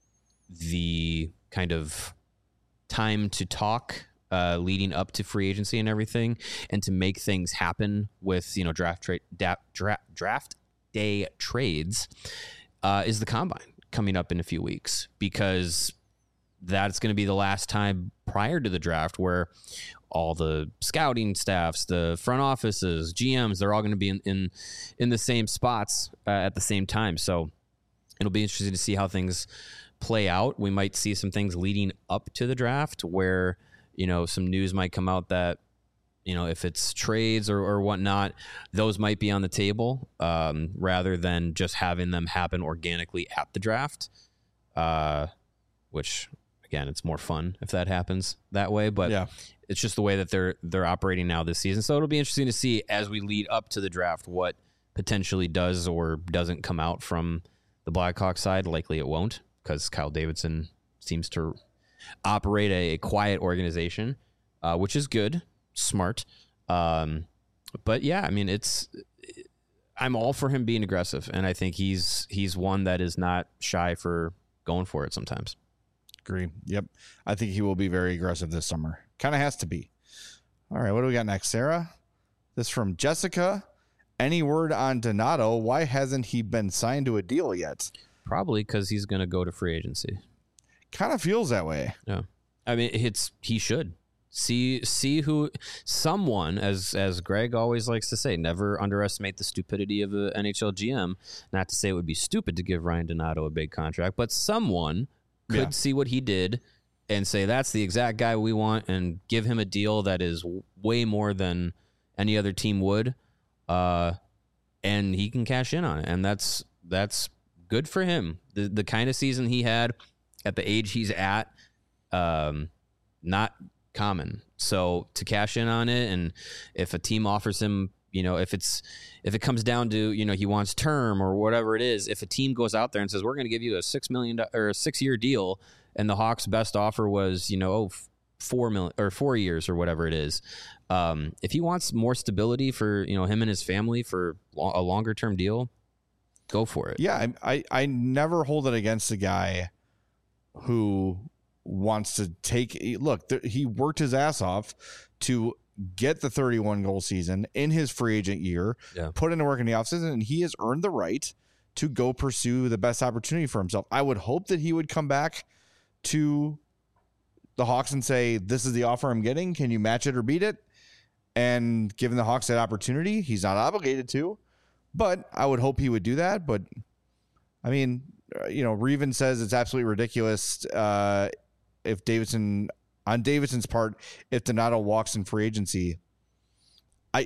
the kind of time to talk uh, leading up to free agency and everything, and to make things happen with you know draft trade da- dra- draft day trades uh, is the combine coming up in a few weeks, because that's going to be the last time prior to the draft where all the scouting staffs, the front offices, G Ms, they're all going to be in, in, in the same spots uh, at the same time. So it'll be interesting to see how things play out. We might see some things leading up to the draft where, you know, some news might come out that, you know, if it's trades or, or whatnot, those might be on the table um, rather than just having them happen organically at the draft, uh, which, again, it's more fun if that happens that way. But Yeah. it's just the way that they're they're operating now this season. So it'll be interesting to see as we lead up to the draft what potentially does or doesn't come out from the Blackhawks side. Likely it won't, because Kyle Davidson seems to operate a, a quiet organization, uh, which is good, smart. Um, but yeah, I mean, it's I'm all for him being aggressive, and I think he's he's one that is not shy for going for it sometimes. Agree. Yep. I think he will be very aggressive this summer. Kind of has to be. All right. What do we got next, Sarah? This from Jessica. Any word on Donato? Why hasn't he been signed to a deal yet? Probably because he's going to go to free agency. Kind of feels that way. Yeah. I mean, it's he should. See see who someone, as as Greg always likes to say, never underestimate the stupidity of an N H L G M. Not to say it would be stupid to give Ryan Donato a big contract, but someone could Yeah. see what he did and say that's the exact guy we want and give him a deal that is way more than any other team would, uh, and he can cash in on it. And that's that's good for him. The the kind of season he had at the age he's at, um, not common. So to cash in on it, and if a team offers him, you know, if it's if it comes down to, you know, he wants term or whatever it is, if a team goes out there and says we're going to give you a six million or a six year deal, and the Hawks' best offer was, you know, oh, four million or four years or whatever it is, um, if he wants more stability for, you know, him and his family for a longer term deal, go for it. Yeah, I, I I never hold it against a guy who wants to take look th- he worked his ass off to get the thirty-one goal season in his free agent year, Yeah. put in work in the offseason, and he has earned the right to go pursue the best opportunity for himself. I would hope that he would come back to the Hawks and say, this is the offer I'm getting, can you match it or beat it? And given the Hawks that opportunity, he's not obligated to, but I would hope he would do that. But I mean, you know, Reven says it's absolutely ridiculous uh if Davidson, on Davidson's part, if Donato walks in free agency. I,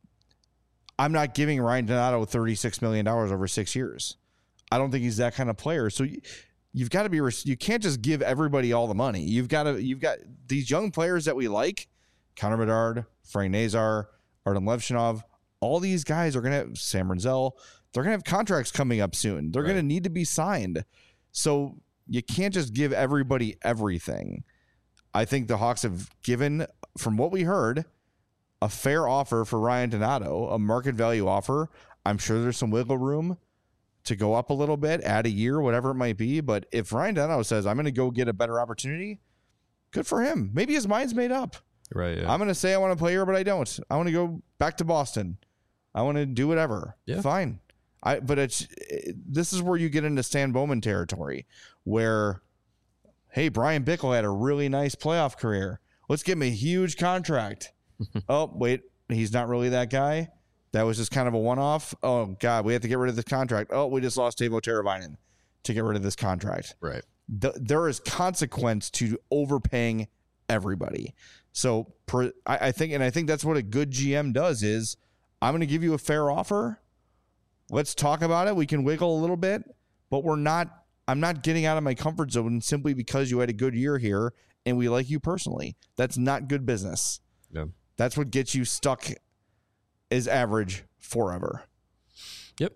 I'm not giving Ryan Donato thirty-six million dollars over six years. I don't think he's that kind of player. So you, you've got to be, you can't just give everybody all the money. You've got to, you've got these young players that we like, Connor Bedard, Frank Nazar, Artem Levshinov, all these guys are going to have, Sam Renzel, they're going to have contracts coming up soon. They're Right. going to need to be signed. So you can't just give everybody everything. I think the Hawks have given, from what we heard, a fair offer for Ryan Donato, a market value offer. I'm sure there's some wiggle room to go up a little bit, add a year, whatever it might be. But if Ryan Donato says, I'm going to go get a better opportunity, good for him. Maybe his mind's made up. Right. Yeah. I'm going to say I want to play here, but I don't. I want to go back to Boston. I want to do whatever. Yeah. Fine. I, but it's it, this is where you get into Stan Bowman territory, where, hey, Brian Bickle had a really nice playoff career. Let's give him a huge contract. Oh, wait, he's not really that guy. That was just kind of a one-off. Oh, God, we have to get rid of this contract. Oh, we just lost Teuvo Teravainen to get rid of this contract. right. The, there is consequence to overpaying everybody. So per, I, I think, and I think that's what a good G M does is, I'm going to give you a fair offer. Let's talk about it. We can wiggle a little bit, but we're not, I'm not getting out of my comfort zone simply because you had a good year here and we like you personally. That's not good business. Yeah. That's what gets you stuck as average forever. Yep.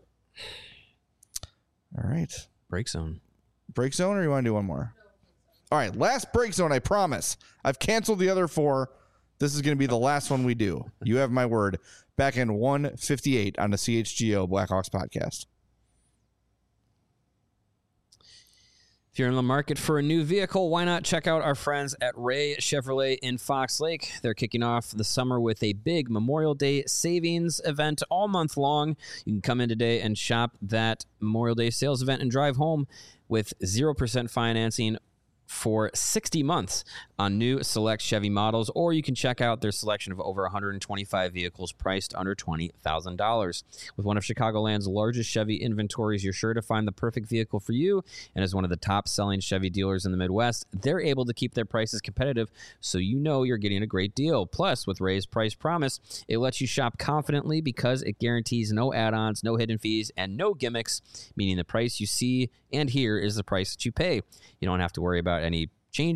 All right. Break zone. Break zone, or you want to do one more? All right. Last break zone, I promise. I've canceled the other four. This is going to be the last one we do. You have my word. Back in one fifty-eight on the C H G O Blackhawks podcast. If you're in the market for a new vehicle, why not check out our friends at Ray Chevrolet in Fox Lake? They're kicking off the summer with a big Memorial Day savings event all month long. You can come in today and shop that Memorial Day sales event and drive home with zero percent financing for sixty months on new select Chevy models, or you can check out their selection of over one hundred twenty-five vehicles priced under twenty thousand dollars. With one of Chicagoland's largest Chevy inventories, you're sure to find the perfect vehicle for you, and as one of the top-selling Chevy dealers in the Midwest, they're able to keep their prices competitive, so you know you're getting a great deal. Plus, with Ray's Price Promise, it lets you shop confidently because it guarantees no add-ons, no hidden fees, and no gimmicks, meaning the price you see and hear is the price that you pay. You don't have to worry about any changing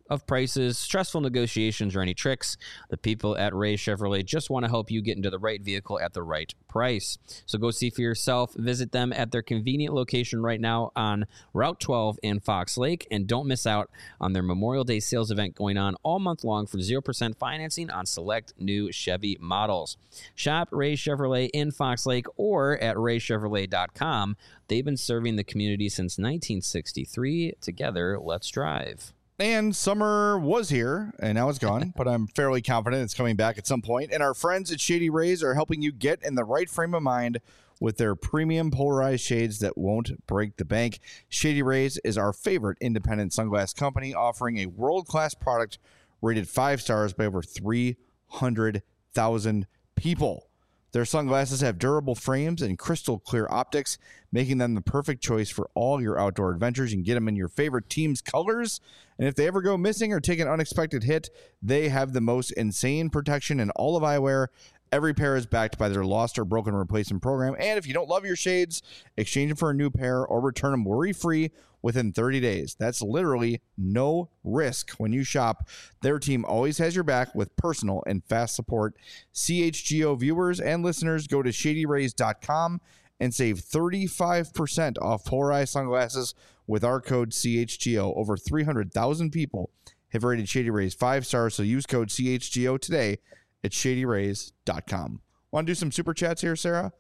of prices, stressful negotiations, or any tricks. The people at Ray Chevrolet just want to help you get into the right vehicle at the right price. So go see for yourself. Visit them at their convenient location right now on Route twelve in Fox Lake. And don't miss out on their Memorial Day sales event going on all month long for zero percent financing on select new Chevy models. Shop Ray Chevrolet in Fox Lake or at ray chevrolet dot com. They've been serving the community since nineteen sixty-three. Together, let's drive. And summer was here, and now it's gone, but I'm fairly confident it's coming back at some point. And our friends at Shady Rays are helping you get in the right frame of mind with their premium polarized shades that won't break the bank. Shady Rays is our favorite independent sunglass company, offering a world-class product rated five stars by over three hundred thousand people. Their sunglasses have durable frames and crystal clear optics, making them the perfect choice for all your outdoor adventures. You can get them in your favorite team's colors. And if they ever go missing or take an unexpected hit, they have the most insane protection in all of eyewear. Every pair is backed by their lost or broken replacement program. And if you don't love your shades, exchange them for a new pair or return them worry-free within thirty days. That's literally no risk when you shop. Their team always has your back with personal and fast support. C H G O viewers and listeners, go to shady rays dot com and save thirty-five percent off polarized sunglasses with our code C H G O. Over three hundred thousand people have rated Shady Rays five stars, so use code C H G O today at shady rays dot com. Want to do some super chats here, Sarah?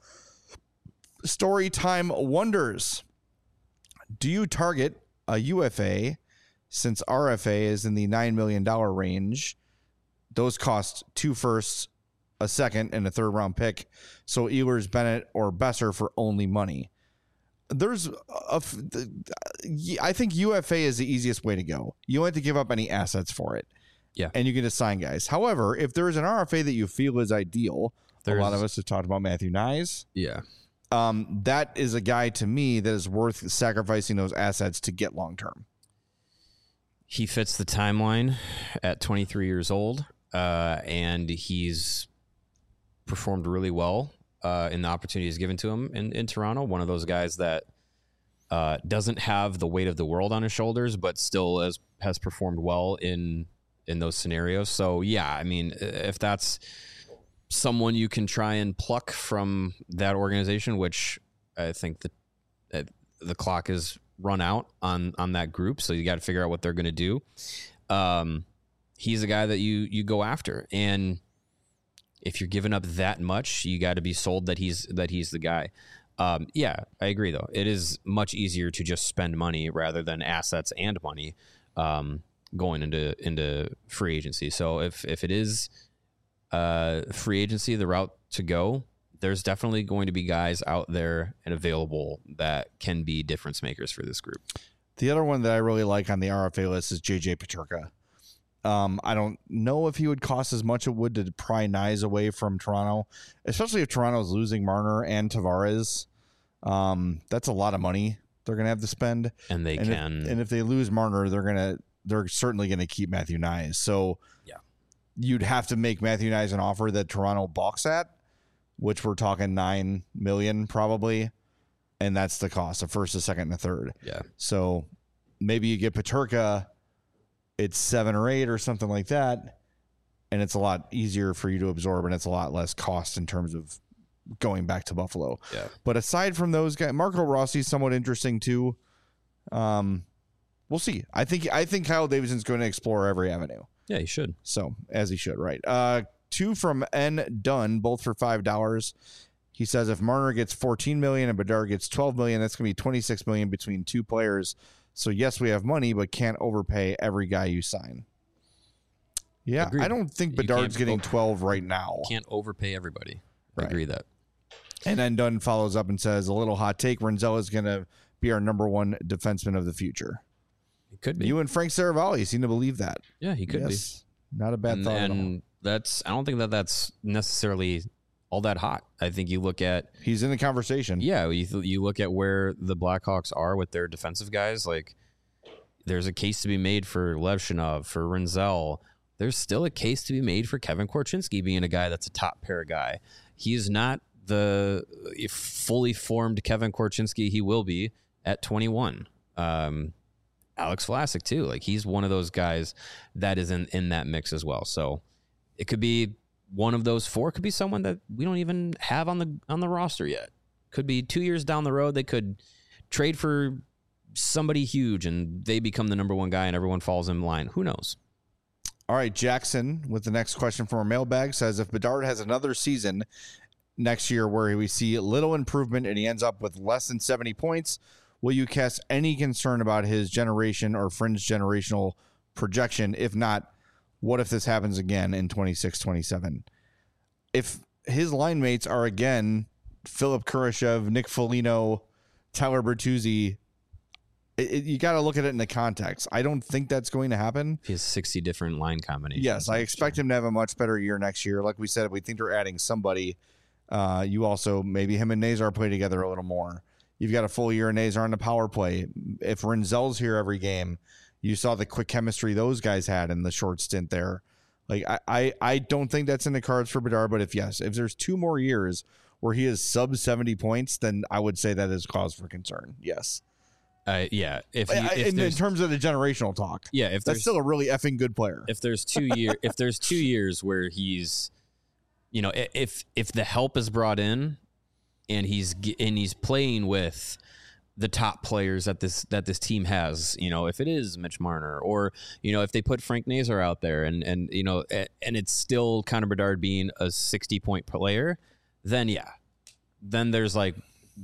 Storytime Wonders. Do you target a U F A since R F A is in the nine million dollars range? Those cost two firsts, a second, and a third round pick. So Ehlers, Bennett, or Besser for only money. There's a, I think U F A is the easiest way to go. You don't have to give up any assets for it. Yeah. And you can just sign guys. However, if there is an R F A that you feel is ideal, There's, a lot of us have talked about Matthew Nyes. Yeah. Um, that is a guy to me that is worth sacrificing those assets to get long term. He fits the timeline at twenty-three years old, uh, and he's performed really well uh, in the opportunities given to him in, in Toronto. One of those guys that uh, doesn't have the weight of the world on his shoulders, but still has, has performed well in in those scenarios. So, yeah, I mean, if that's someone you can try and pluck from that organization, which I think the uh, the clock is run out on on that group, so you got to figure out what they're going to do. Um, he's a guy that you you go after, and if you're giving up that much, you got to be sold that he's that he's the guy. Um, yeah, I agree though. It is much easier to just spend money rather than assets and money um, going into into free agency. So if if it is Uh, free agency, the route to go, there's definitely going to be guys out there and available that can be difference makers for this group. The other one that I really like on the R F A list is J J Peterka. Um, I don't know if he would cost as much as it would to pry Nyes away from Toronto, especially if Toronto's losing Marner and Tavares. Um, that's a lot of money they're going to have to spend. And they and can. If, and if they lose Marner, they're going to, they're certainly going to keep Matthew Nyes. So, yeah. You'd have to make Matthew Nyes an offer that Toronto balks at, which we're talking nine million probably, and that's the cost, a first, a second, and a third. Yeah. So maybe you get Peterka, it's seven or eight or something like that, and it's a lot easier for you to absorb, and it's a lot less cost in terms of going back to Buffalo. Yeah. But aside from those guys, Marco Rossi is somewhat interesting too. Um, we'll see. I think I think Kyle Davidson's going to explore every avenue. Yeah, he should. So, as he should, right. Uh, two from N. Dunn, both for five dollars. He says if Marner gets fourteen million dollars and Bedard gets twelve million dollars, that's going to be twenty-six million dollars between two players. So, yes, we have money, but can't overpay every guy you sign. Yeah, Agreed. I don't think Bedard's getting over- twelve right now. Can't overpay everybody. Right. I agree that. And then Dunn follows up and says, a little hot take, Renzel is going to be our number one defenseman of the future. It could be. You and Frank Saravalli seem to believe that. Yeah, he could yes, be. Not a bad and, thought and at all. that's, I don't think that that's necessarily all that hot. I think you look at... He's in the conversation. Yeah, you, th- you look at where the Blackhawks are with their defensive guys. Like, there's a case to be made for Levshinov, for Renzel. There's still a case to be made for Kevin Korchinski being a guy that's a top pair guy. He's not the fully formed Kevin Korchinski he will be at twenty-one. Um Alex Vlasic too. Like he's one of those guys that is in, in that mix as well. So it could be one of those four. It could be someone that we don't even have on the on the roster yet. Could be two years down the road. They could trade for somebody huge and they become the number one guy and everyone falls in line. Who knows? All right, Jackson with the next question from our mailbag says, if Bedard has another season next year where we see little improvement and he ends up with less than seventy points, will you cast any concern about his generation or fringe generational projection? If not, what if this happens again in twenty-six twenty-seven? If his line mates are again Philip Kurashev, Nick Foligno, Tyler Bertuzzi, it, it, you got to look at it in the context. I don't think that's going to happen. He has sixty different line combinations. Yes, I expect him to have a much better year next year. Like we said, we think they're adding somebody. Uh, you also, maybe him and Nazar play together a little more. You've got a full year of Nazar on the power play. If Renzel's here every game, you saw the quick chemistry those guys had in the short stint there. Like I, I, I don't think that's in the cards for Bedard, but if yes, if there's two more years where he is sub seventy points, then I would say that is cause for concern. Yes. Uh, yeah. If, you, I, if in, in terms of the generational talk, yeah, if that's still a really effing good player. If there's two year, if there's two years where he's, you know, if if the help is brought in, and he's and he's playing with the top players that this that this team has, you know, if it is Mitch Marner or, you know, if they put Frank Nazar out there and and you know and it's still Connor Bedard being a sixty point player, then yeah, then there's like,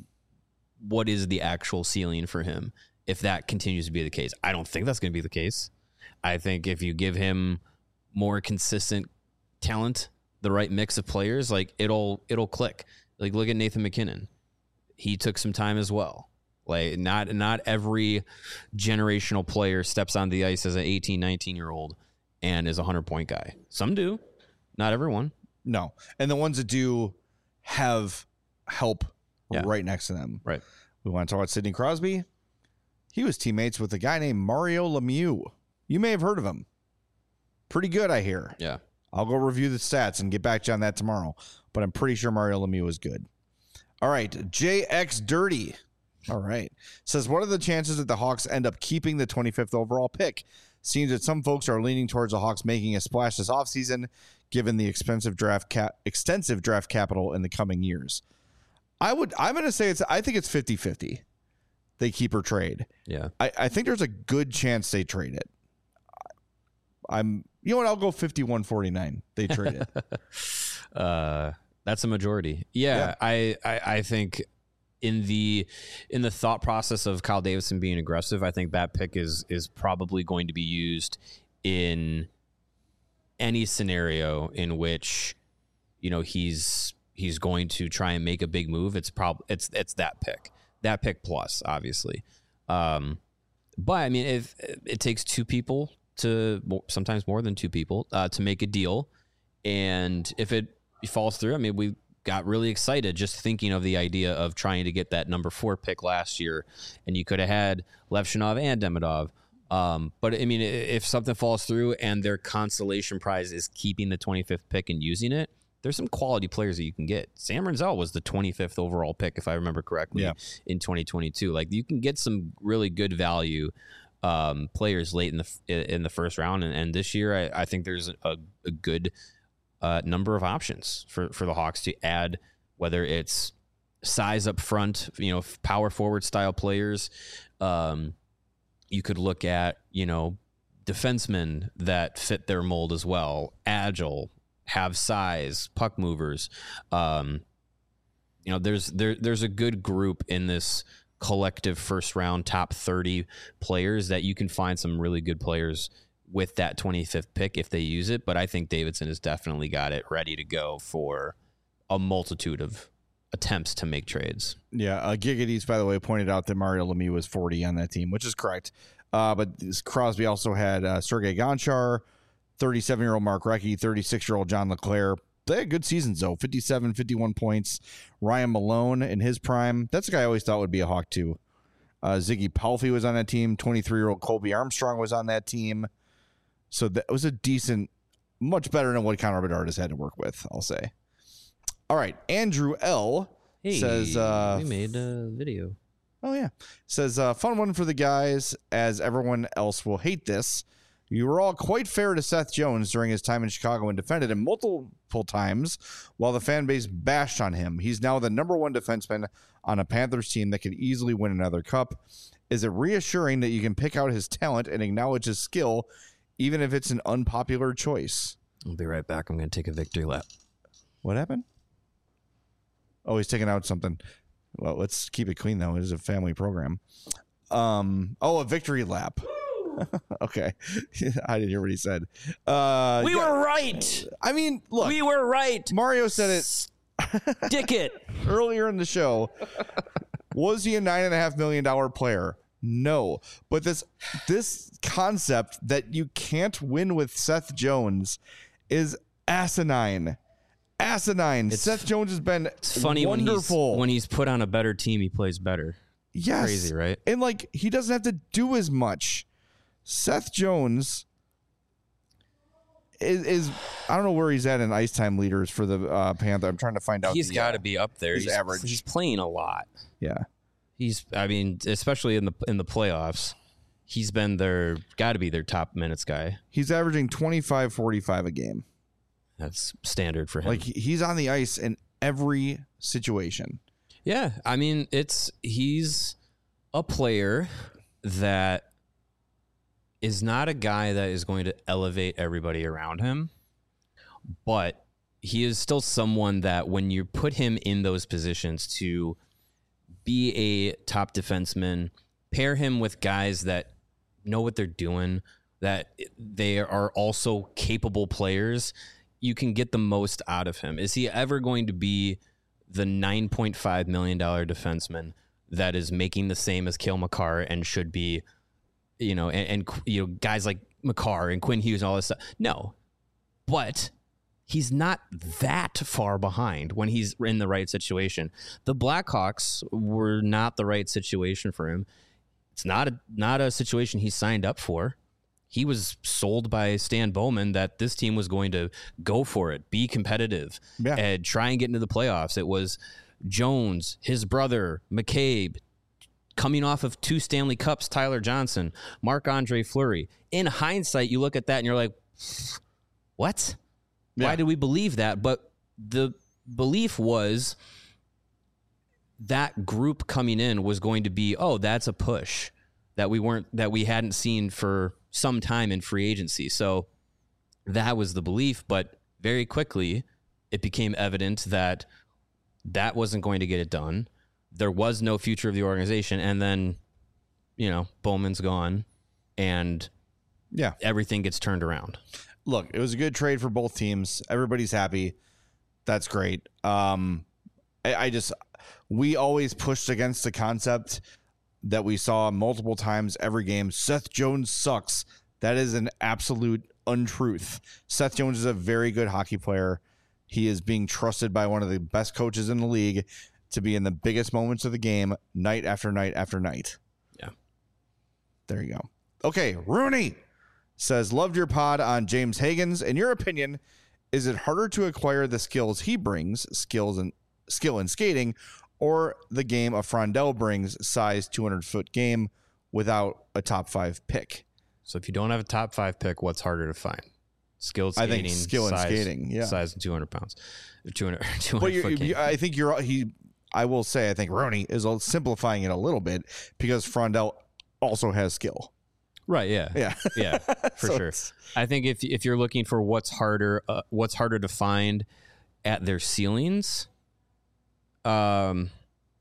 what is the actual ceiling for him if that continues to be the case? I don't think that's going to be the case. I think if you give him more consistent talent, the right mix of players, like it'll it'll click. Like look at Nathan McKinnon. He took some time as well. Like not not every generational player steps on the ice as an eighteen, nineteen year old and is a hundred point guy. Some do, not everyone. No, and the ones that do have help yeah. right next to them. Right. We want to talk about Sidney Crosby. He was teammates with a guy named Mario Lemieux. You may have heard of him. Pretty good, I hear. Yeah. I'll go review the stats and get back to you on that tomorrow. But I'm pretty sure Mario Lemieux is good. All right. J X Dirty. All right. Says, what are the chances that the Hawks end up keeping the twenty-fifth overall pick? Seems that some folks are leaning towards the Hawks making a splash this offseason, given the expensive draft cap, extensive draft capital in the coming years. I would, I'm going to say it's, I think it's fifty-fifty. They keep or trade. Yeah. I, I think there's a good chance they trade it. I'm, you know what? I'll go fifty-one forty-nine. They trade it. uh, that's a majority. Yeah, yeah. I, I, I think in the, in the thought process of Kyle Davidson being aggressive, I think that pick is, is probably going to be used in any scenario in which, you know, he's, he's going to try and make a big move. It's probably, it's, it's that pick, that pick plus obviously. Um, but I mean, if it takes two people to, sometimes more than two people, uh, to make a deal. And if it falls through, I mean, we got really excited just thinking of the idea of trying to get that number four pick last year. And you could have had Levshunov and Demidov. Um, but I mean, if something falls through and their consolation prize is keeping the twenty-fifth pick and using it, there's some quality players that you can get. Sam Renzel was the twenty-fifth overall pick, if I remember correctly, yeah. in twenty twenty-two. Like you can get some really good value um, players late in the in the first round, and, and this year I, I think there's a, a good uh, number of options for for the Hawks to add, whether it's size up front, you know, power forward style players. Um, you could look at, you know, defensemen that fit their mold as well, agile, have size, puck movers. Um, you know, there's there there's a good group in this collective first round top thirty players that you can find some really good players with that twenty-fifth pick if they use it. But I think Davidson has definitely got it ready to go for a multitude of attempts to make trades. Yeah, uh, Gigadees, by the way, pointed out that Mario Lemieux was forty on that team, which is correct. Uh, but this Crosby also had uh, Sergei Gonchar, thirty-seven-year-old Mark Recchi, thirty-six-year-old John LeClaire. They had good seasons, though. fifty-seven, fifty-one points. Ryan Malone in his prime. That's a guy I always thought would be a Hawk, too. Uh, Ziggy Palffy was on that team. twenty-three-year-old Colby Armstrong was on that team. So that was a decent, much better than what Connor Bedard has had to work with, I'll say. All right. Andrew L. Hey, says... Uh, we made a video. Oh, yeah. Says, uh, fun one for the guys, as everyone else will hate this. You were all quite fair to Seth Jones during his time in Chicago and defended him multiple times while the fan base bashed on him. He's now the number one defenseman on a Panthers team that could easily win another cup. Is it reassuring that you can pick out his talent and acknowledge his skill, even if it's an unpopular choice? I'll be right back. I'm going to take a victory lap. What happened? Oh, he's taking out something. Well, let's keep it clean, though. It is a family program. Um. Oh, a victory lap. Okay. I didn't hear what he said. Uh, we yeah. were right. I mean, look. We were right. Mario said it. Dick it. Earlier in the show. Was he a nine and a half million dollar player? No. But this this concept that you can't win with Seth Jones is asinine. Asinine. It's, Seth Jones has been it's funny wonderful. When he's, when he's put on a better team, he plays better. Yes. Crazy, right? And like he doesn't have to do as much. Seth Jones is, is I don't know where he's at in ice time leaders for the uh, Panther. I'm trying to find out. He's got to uh, be up there. He's, he's average. He's playing a lot. Yeah. He's. I mean, especially in the in the playoffs, he's been their got to be their top minutes guy. He's averaging twenty-five forty-five a game. That's standard for him. Like he's on the ice in every situation. Yeah, I mean, it's he's a player that is not a guy that is going to elevate everybody around him, but he is still someone that when you put him in those positions to be a top defenseman, pair him with guys that know what they're doing, that they are also capable players, you can get the most out of him. Is he ever going to be the nine point five million dollars defenseman that is making the same as Cale Makar and should be, you know, and, and you know, guys like Makar and Quinn Hughes and all this stuff? No, but he's not that far behind when he's in the right situation. The Blackhawks were not the right situation for him. It's not a, not a situation he signed up for. He was sold by Stan Bowman that this team was going to go for it, be competitive, yeah. and try and get into the playoffs. It was Jones, his brother, McCabe, coming off of two Stanley Cups, Tyler Johnson, Marc-Andre Fleury. In hindsight, you look at that and you're like, what? Yeah. Why did we believe that? But the belief was that group coming in was going to be, oh, that's a push that we weren't, that we hadn't seen for some time in free agency. So that was the belief, but very quickly it became evident that that wasn't going to get it done. There was no future of the organization. And then, you know, Bowman's gone and yeah, everything gets turned around. Look, it was a good trade for both teams. Everybody's happy. That's great. Um, I, I just, we always pushed against the concept that we saw multiple times every game. Seth Jones sucks. That is an absolute untruth. Seth Jones is a very good hockey player. He is being trusted by one of the best coaches in the league to be in the biggest moments of the game night after night after night. Yeah. There you go. Okay. Rooney says, loved your pod on James Higgins. In your opinion, is it harder to acquire the skills he brings, skills and skill in skating, or the game of Frondell brings, size two hundred foot game, without a top five pick? So if you don't have a top five pick, what's harder to find? Skilled skating, I think skill size, and skating, yeah, size and two hundred pounds, two hundred, two hundred but you're, foot game. You, I think you're he. I will say I think Rooney is simplifying it a little bit because Frondell also has skill. Right. Yeah. Yeah. Yeah. For So sure. it's- I think if if you're looking for what's harder, uh, what's harder to find at their ceilings, um,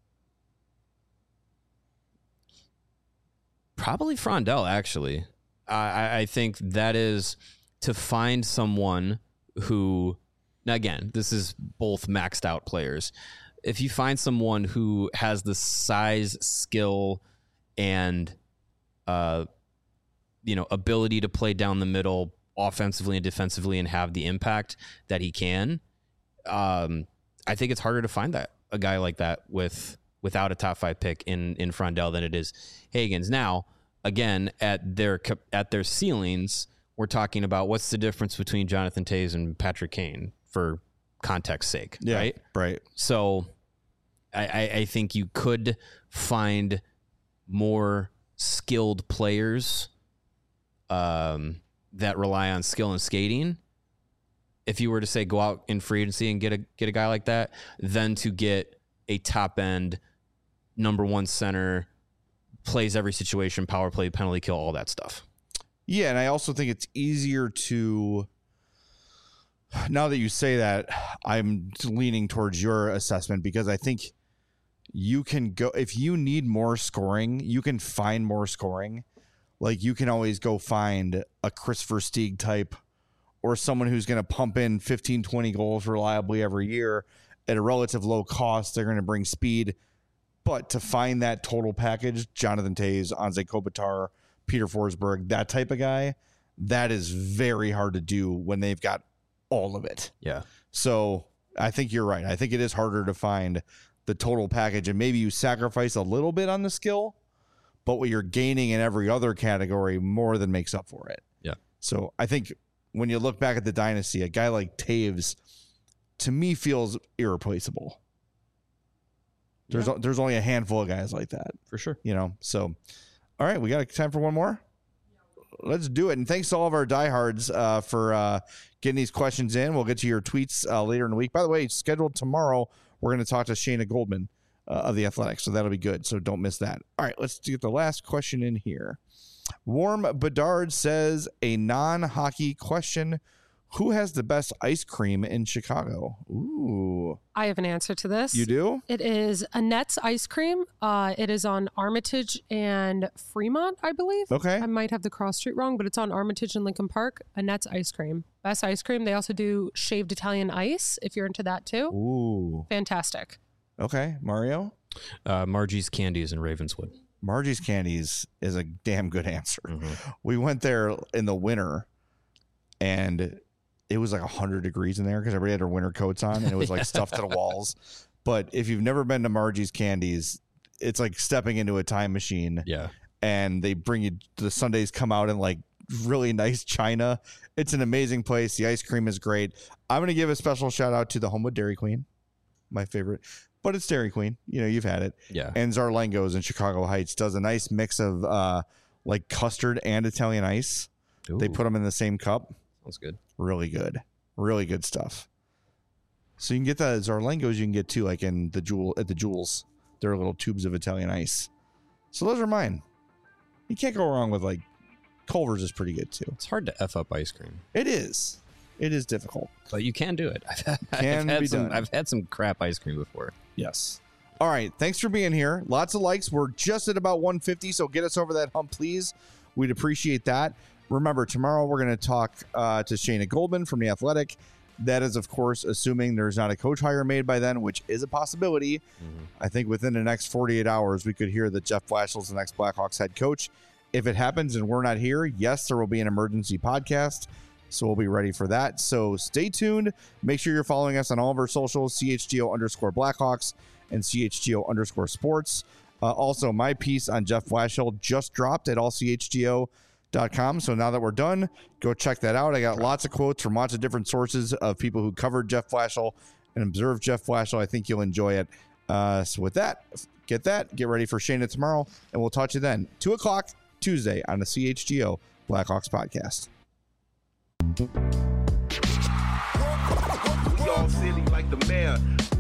probably Frondell. Actually, I I think that is to find someone who, now again, this is both maxed out players. If you find someone who has the size, skill, and uh. you know, ability to play down the middle offensively and defensively and have the impact that he can. Um, I think it's harder to find that a guy like that with, without a top five pick in, in Frondell than it is Higgins. Now, again, at their, at their ceilings, we're talking about what's the difference between Jonathan Toews and Patrick Kane for context sake. Yeah, right. Right. So I, I, I think you could find more skilled players um, that rely on skill and skating. If you were to say go out in free agency and get a get a guy like that, than to get a top end number one center, plays every situation, power play, penalty kill, all that stuff. Yeah, and I also think it's easier to. Now that you say that, I'm leaning towards your assessment because I think you can go if you need more scoring, you can find more scoring. Like you can always go find a Chris Versteeg type or someone who's going to pump in fifteen, twenty goals reliably every year at a relative low cost. They're going to bring speed. But to find that total package, Jonathan Toews, Anze Kopitar, Peter Forsberg, that type of guy, that is very hard to do when they've got all of it. Yeah. So I think you're right. I think it is harder to find the total package, and maybe you sacrifice a little bit on the skill, but what you're gaining in every other category more than makes up for it. Yeah. So I think when you look back at the dynasty, a guy like Toews, to me, feels irreplaceable. There's Yeah. there's only a handful of guys like that. For sure. You know, so all right, we got time for one more. Let's do it. And thanks to all of our diehards uh, for uh, getting these questions in. We'll get to your tweets uh, later in the week. By the way, scheduled tomorrow, we're going to talk to Shayna Goldman uh, of The Athletic, so that'll be good. So don't miss that. All right, let's get the last question in here. Warm Bedard says, a non-hockey question. Who has the best ice cream in Chicago? Ooh. I have an answer to this. You do? It is Annette's Ice Cream. Uh, it is on Armitage and Fremont, I believe. Okay. I might have the cross street wrong, but it's on Armitage and Lincoln Park. Annette's Ice Cream. Best ice cream. They also do shaved Italian ice, if you're into that too. Ooh. Fantastic. Okay. Mario? Uh, Margie's Candies in Ravenswood. Margie's Candies is a damn good answer. Mm-hmm. We went there in the winter, and it was like one hundred degrees in there because everybody had their winter coats on, and it was like stuffed to the walls. But if you've never been to Margie's Candies, it's like stepping into a time machine. Yeah. And they bring you, the sundaes come out in like really nice china. It's an amazing place. The ice cream is great. I'm going to give a special shout out to the Homewood Dairy Queen, my favorite. But it's Dairy Queen. You know, you've had it. Yeah. And Zarlengo's in Chicago Heights does a nice mix of uh, like custard and Italian ice. Ooh. They put them in the same cup. Sounds good. Really good. Really good stuff. So you can get the Zarlengos you can get too, like in the jewel at the Jewels. There are little tubes of Italian ice. So those are mine. You can't go wrong with like Culver's is pretty good too. It's hard to F up ice cream, It is. It is difficult. but you can do it. I've had, Can I've had be some. done. I've had some crap ice cream before. Yes. All right. Thanks for being here. Lots of likes. We're just at about one fifty, so get us over that hump, please. We'd appreciate that. Remember, tomorrow we're going to talk uh, to Shayna Goldman from The Athletic. That is, of course, assuming there's not a coach hire made by then, which is a possibility. Mm-hmm. I think within the next forty-eight hours, we could hear that Jeff Blashill the next Blackhawks head coach. If it happens and we're not here, yes, there will be an emergency podcast. So we'll be ready for that. So stay tuned. Make sure you're following us on all of our socials, C H G O underscore Blackhawks and C H G O underscore sports. Uh, also, my piece on Jeff Blashill just dropped at all C H G O dot com. So now that we're done, go check that out. I got lots of quotes from lots of different sources of people who covered Jeff Blashill and observed Jeff Blashill. I think you'll enjoy it. Uh, so with that, get that. Get ready for Shayna tomorrow, and we'll talk to you then. two o'clock Tuesday on the C H G O Blackhawks podcast. We all silly like the mayor.